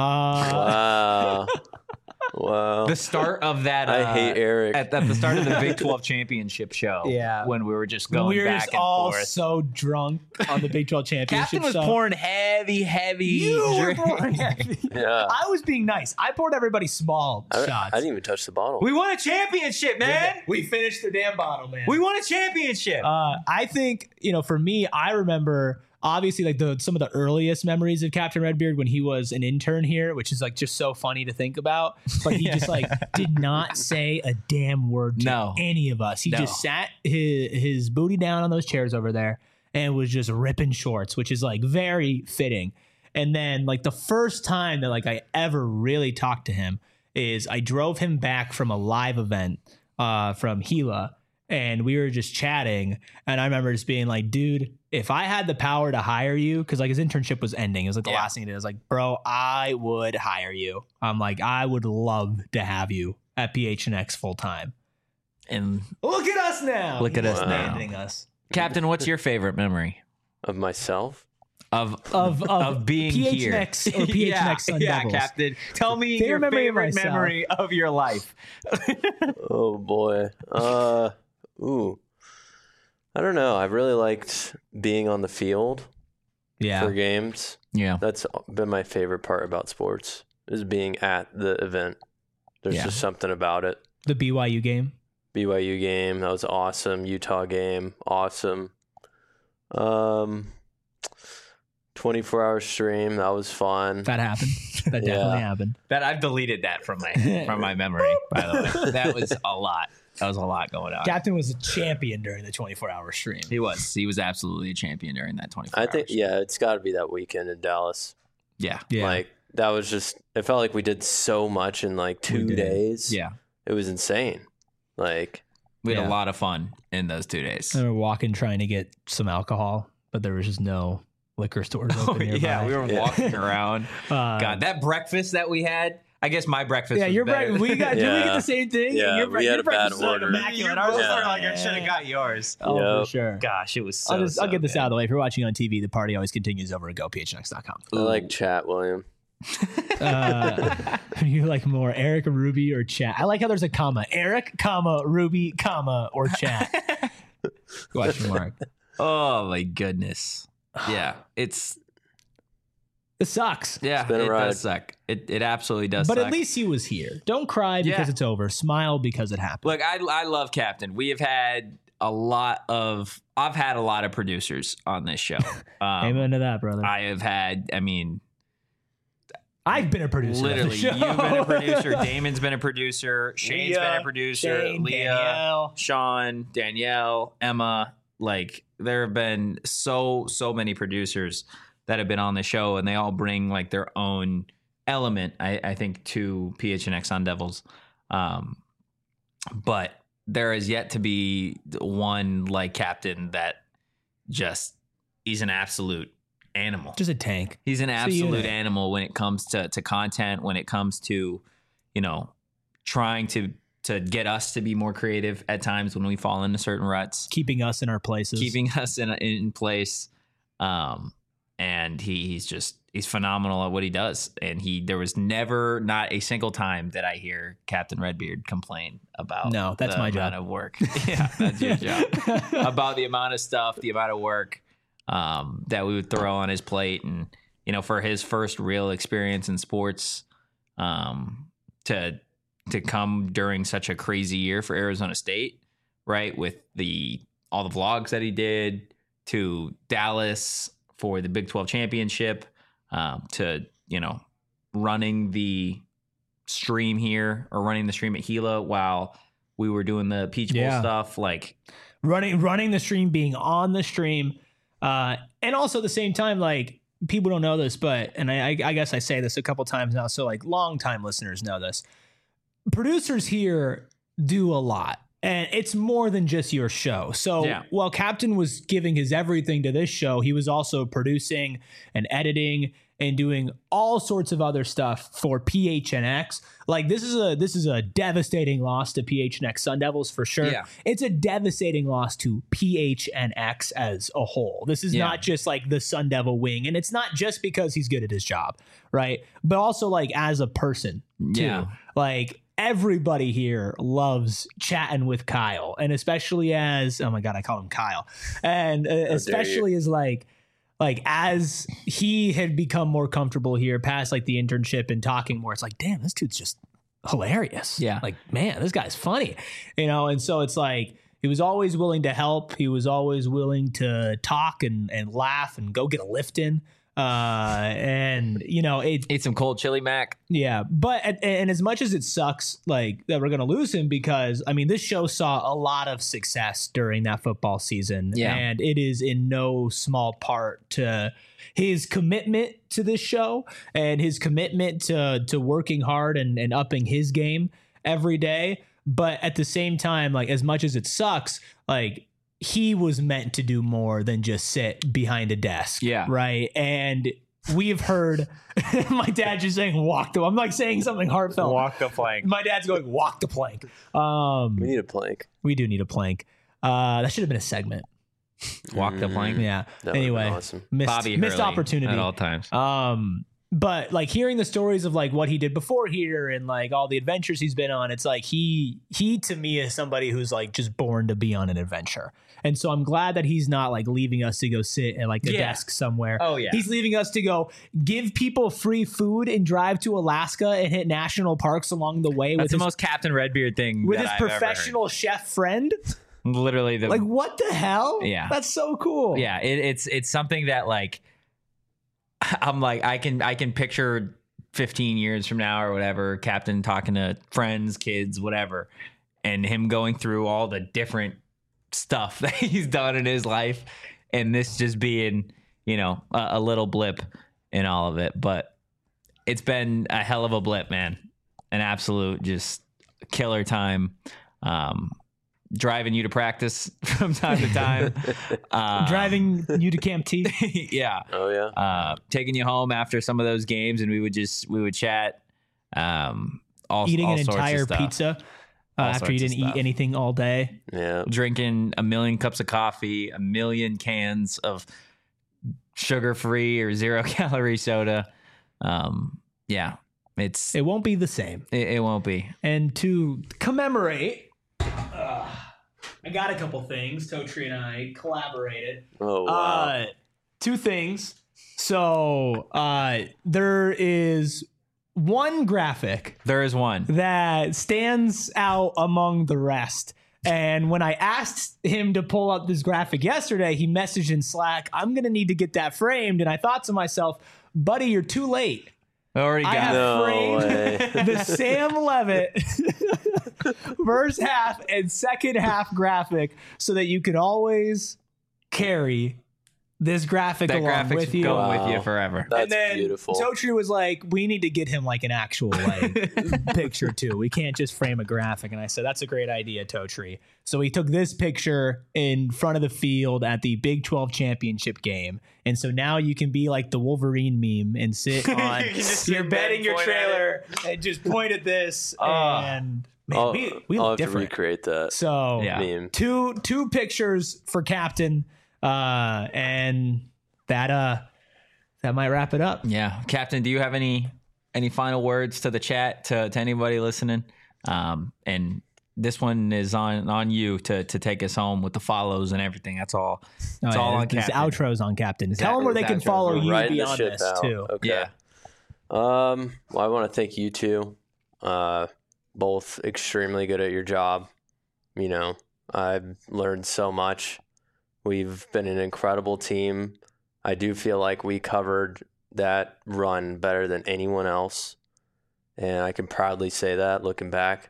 Speaker 4: Wow.
Speaker 2: The start of that.
Speaker 4: I hate Eric.
Speaker 2: At the start of the Big 12 championship show.
Speaker 1: Yeah.
Speaker 2: When we were just going
Speaker 1: we were
Speaker 2: back
Speaker 1: just
Speaker 2: and
Speaker 1: all
Speaker 2: forth.
Speaker 1: so drunk on the Big 12 championship
Speaker 2: Captain was
Speaker 1: show.
Speaker 2: pouring heavy.
Speaker 1: You were pouring heavy.
Speaker 4: Yeah.
Speaker 1: I was being nice. I poured everybody small shots.
Speaker 4: I didn't even touch the bottle.
Speaker 2: We won a championship, man.
Speaker 1: We finished the damn bottle, man.
Speaker 2: We won a championship.
Speaker 1: I think, for me, I remember obviously like some of the earliest memories of Captain Redbeard when he was an intern here, which is like just so funny to think about. But he just like did not say a damn word to any of us. He just sat his booty down on those chairs over there and was just ripping shorts, which is like very fitting. And then like the first time that like I ever really talked to him is I drove him back from a live event from Gila. And we were just chatting, and I remember just being like, dude, if I had the power to hire you, because like his internship was ending. It was like the last thing he did. I was like, bro, I would hire you. I'm like, I would love to have you at PHNX full time.
Speaker 2: And
Speaker 1: look at us now.
Speaker 2: Look at us now.
Speaker 1: Abandoning us.
Speaker 2: Captain, what's your favorite memory?
Speaker 4: Of myself?
Speaker 2: Of being
Speaker 1: PHNX
Speaker 2: here.
Speaker 1: Or PHNX Sun Devils.
Speaker 2: Captain. Tell me your favorite memory of your life.
Speaker 4: Oh, boy. I don't know. I really liked being on the field for games.
Speaker 2: Yeah.
Speaker 4: That's been my favorite part about sports, is being at the event. There's just something about it.
Speaker 1: The BYU game?
Speaker 4: BYU game, that was awesome. Utah game, awesome. 24-hour stream, that was fun.
Speaker 1: That happened. That definitely happened.
Speaker 2: That I've deleted that from my memory, by the way. That was a lot. That was a lot going on.
Speaker 1: Captain was a champion during the 24-hour stream.
Speaker 2: He was. He was absolutely a champion during that 24 hours.
Speaker 4: I think, it's got to be that weekend in Dallas.
Speaker 2: Yeah.
Speaker 4: Like, that was just, it felt like we did so much in like 2 days.
Speaker 2: Yeah.
Speaker 4: It was insane. Like,
Speaker 2: we had a lot of fun in those 2 days.
Speaker 1: We were walking trying to get some alcohol, but there was just no liquor stores open nearby.
Speaker 2: Yeah, we were walking around. God, that breakfast that we had. I guess my breakfast.
Speaker 1: Yeah,
Speaker 2: was
Speaker 1: your
Speaker 2: better.
Speaker 1: breakfast. Did we get the same thing?
Speaker 4: Yeah, we had a bad order.
Speaker 2: You're both like, I should have got yours.
Speaker 1: Oh, for sure.
Speaker 2: Gosh, it was so.
Speaker 1: I'll get this out of the way. If you're watching on TV, the party always continues over at gophnx.com.
Speaker 4: I like chat, William.
Speaker 1: You like more Eric, Ruby, or chat? I like how there's a comma. Eric, comma, Ruby, comma, or chat. Question mark.
Speaker 2: Oh my goodness. Yeah, it
Speaker 1: sucks.
Speaker 2: Yeah, it does suck. It absolutely does
Speaker 1: but
Speaker 2: suck.
Speaker 1: At least he was here. Don't cry because it's over. Smile because it happened.
Speaker 2: Look, I love Captain. We have had I've had a lot of producers on this show.
Speaker 1: Amen to that, brother.
Speaker 2: I've
Speaker 1: been a producer.
Speaker 2: Literally, you've been a producer. Damon's been a producer. Shane's been a producer.
Speaker 1: Shane,
Speaker 2: Leah,
Speaker 1: Danielle.
Speaker 2: Sean, Danielle, Emma. Like, there have been so many producers that have been on the show, and they all bring like their own element, I think, to PHNX Sun Devils. But there is yet to be one like Captain that he's an absolute animal.
Speaker 1: Just a tank.
Speaker 2: He's an absolute animal when it comes to content, when it comes to, trying to get us to be more creative at times when we fall into certain ruts.
Speaker 1: Keeping us in our places.
Speaker 2: Keeping us in place. And he's phenomenal at what he does. And there was never, not a single time that I hear Captain Redbeard complain about
Speaker 1: that's my job.
Speaker 2: Of work. Yeah, that's your job. About the amount of stuff, the amount of work that we would throw on his plate. And for his first real experience in sports, to come during such a crazy year for Arizona State, right? With all the vlogs that he did, to Dallas for the Big 12 championship, to, running the stream here, or running the stream at Gila while we were doing the Peach Bowl stuff, like
Speaker 1: running the stream, being on the stream, and also at the same time, like, people don't know this, but, and I guess I say this a couple times now, so like long time listeners know this. Producers here do a lot, and it's more than just your show. So while Captain was giving his everything to this show, he was also producing and editing and doing all sorts of other stuff for PHNX. Like, this is a devastating loss to PHNX Sun Devils for sure. Yeah. It's a devastating loss to PHNX as a whole. This is not just like the Sun Devil wing, and it's not just because he's good at his job, right? But also like as a person too. Yeah. Like, everybody here loves chatting with Kyle, and especially as, oh my God, I call him Kyle. And especially as like as he had become more comfortable here past like the internship and talking more, it's like, damn, this dude's just hilarious. Yeah. Like, man, this guy's funny, And so it's like, he was always willing to help. He was always willing to talk and laugh and go get a lift in. And
Speaker 2: ate some cold chili mac.
Speaker 1: Yeah. But, and as much as it sucks, like, that we're going to lose him, because I mean, this show saw a lot of success during that football season. Yeah. And it is in no small part to his commitment to this show and his commitment to working hard and upping his game every day. But at the same time, like, as much as it sucks, like, he was meant to do more than just sit behind a desk. Yeah. Right. And we've heard my dad just saying, I'm like saying something heartfelt.
Speaker 2: Walk the plank.
Speaker 1: My dad's going, walk the plank.
Speaker 4: We need a plank.
Speaker 1: We do need a plank. That should have been a segment.
Speaker 2: Walk the plank.
Speaker 1: Yeah. Anyway,
Speaker 4: awesome.
Speaker 1: missed opportunity
Speaker 2: at all times.
Speaker 1: But like, hearing the stories of like what he did before here and like all the adventures he's been on, it's like he to me is somebody who's like just born to be on an adventure. And so I'm glad that he's not like leaving us to go sit at like a desk somewhere. Oh yeah. He's leaving us to go give people free food and drive to Alaska and hit national parks along the way.
Speaker 2: That's the most Captain Redbeard thing
Speaker 1: with his professional chef friend.
Speaker 2: Literally
Speaker 1: like, what the hell?
Speaker 2: Yeah.
Speaker 1: That's so cool.
Speaker 2: Yeah. It's something that, like, I'm like, I can picture 15 years from now or whatever, Captain talking to friends, kids, whatever, and him going through all the different stuff that he's done in his life, and this just being, a little blip in all of it. But it's been a hell of a blip, man. An absolute just killer time. Driving you to practice from time to time.
Speaker 1: Driving you to Camp T.
Speaker 2: Yeah.
Speaker 4: Oh yeah.
Speaker 2: Taking you home after some of those games, and we would chat.
Speaker 1: Eating an entire pizza after you didn't eat anything all day.
Speaker 4: Yeah.
Speaker 2: Drinking 1 million cups of coffee, 1 million cans of sugar-free or 0-calorie soda. Yeah.
Speaker 1: It won't be the same.
Speaker 2: It won't be.
Speaker 1: And to commemorate, I got a couple things. Totri and I collaborated.
Speaker 4: Oh, wow.
Speaker 1: 2 things. So there is one graphic.
Speaker 2: There is one
Speaker 1: that stands out among the rest. And when I asked him to pull up this graphic yesterday, he messaged in Slack, I'm going to need to get that framed. And I thought to myself, buddy, you're too late.
Speaker 2: Already got
Speaker 1: I have framed the Sam Levitt first half and second half graphic so that you can always carry this graphic along with you.
Speaker 2: Going with you forever.
Speaker 4: That's
Speaker 1: and then
Speaker 4: beautiful.
Speaker 1: Totri was like, we need to get him like an actual like picture too. We can't just frame a graphic. And I said, that's a great idea, Totri. So we took this picture in front of the field at the Big 12 championship game. And so now you can be like the Wolverine meme and sit on your bed in your trailer and just point at this. And man, we
Speaker 4: I'll
Speaker 1: look
Speaker 4: have
Speaker 1: different.
Speaker 4: to recreate that.
Speaker 1: So
Speaker 4: meme.
Speaker 1: two pictures for Captain. And that might wrap it up.
Speaker 2: Yeah. Captain, do you have any final words to the chat, to anybody listening? And this one is on you to take us home with the follows and everything. That's all. It's all on
Speaker 1: This
Speaker 2: Captain.
Speaker 1: outro's on Captain.
Speaker 2: Exactly.
Speaker 1: Tell them where they can
Speaker 2: Outros.
Speaker 1: follow
Speaker 4: We're
Speaker 1: you
Speaker 4: riding the
Speaker 1: beyond
Speaker 4: ship
Speaker 1: this
Speaker 4: out.
Speaker 1: too.
Speaker 4: Okay.
Speaker 2: Yeah.
Speaker 4: Well, I want to thank you two. Both extremely good at your job. You know, I've learned so much. We've been an incredible team. I do feel like we covered that run better than anyone else. And I can proudly say that looking back.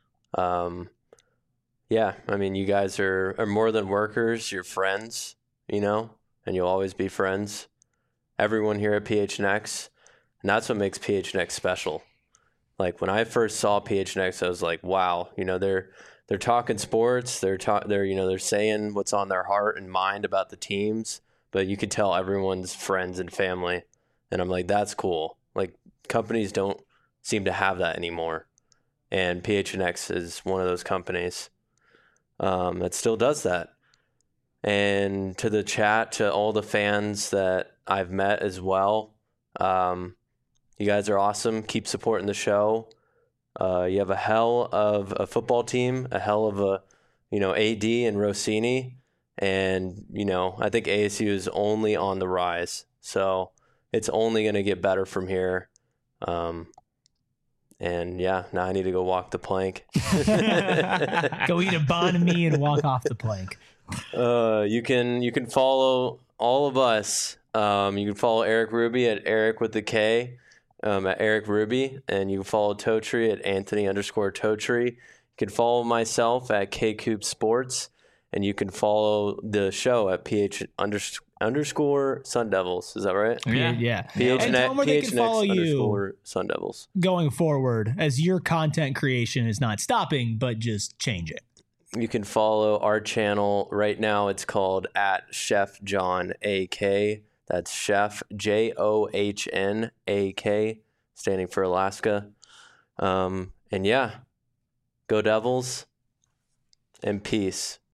Speaker 4: Yeah, I mean, you guys are more than workers. You're friends, you know, and you'll always be friends. Everyone here at PHNX, and that's what makes PHNX special. Like when I first saw PHNX, I was like, wow, you know, they're talking sports. They're saying what's on their heart and mind about the teams, but you could tell everyone's friends and family. And I'm like, that's cool. Like companies don't seem to have that anymore. And PHNX is one of those companies that still does that. And to the chat, to all the fans that I've met as well, you guys are awesome. Keep supporting the show. You have a hell of a football team, a hell of a, AD and Rossini. And, I think ASU is only on the rise. So it's only going to get better from here. And yeah, now I need to go walk the plank.
Speaker 1: Go eat a banh mi and walk off the plank.
Speaker 4: You can follow all of us. You can follow Eric Ruby at Eric with the K, at Eric Ruby, and you can follow Totri at Anthony_Totri. You can follow myself at KCoop Sports, and you can follow the show at _Sun Devils. Is that right?
Speaker 1: Yeah.
Speaker 4: PHNX,
Speaker 1: And tell them where they can follow you
Speaker 4: Sun Devils.
Speaker 1: going forward, as your content creation is not stopping, but just change it.
Speaker 4: You can follow our channel right now. It's called at Chef John AK. That's Chef JOHNAK, standing for Alaska. And yeah, go Devils and peace.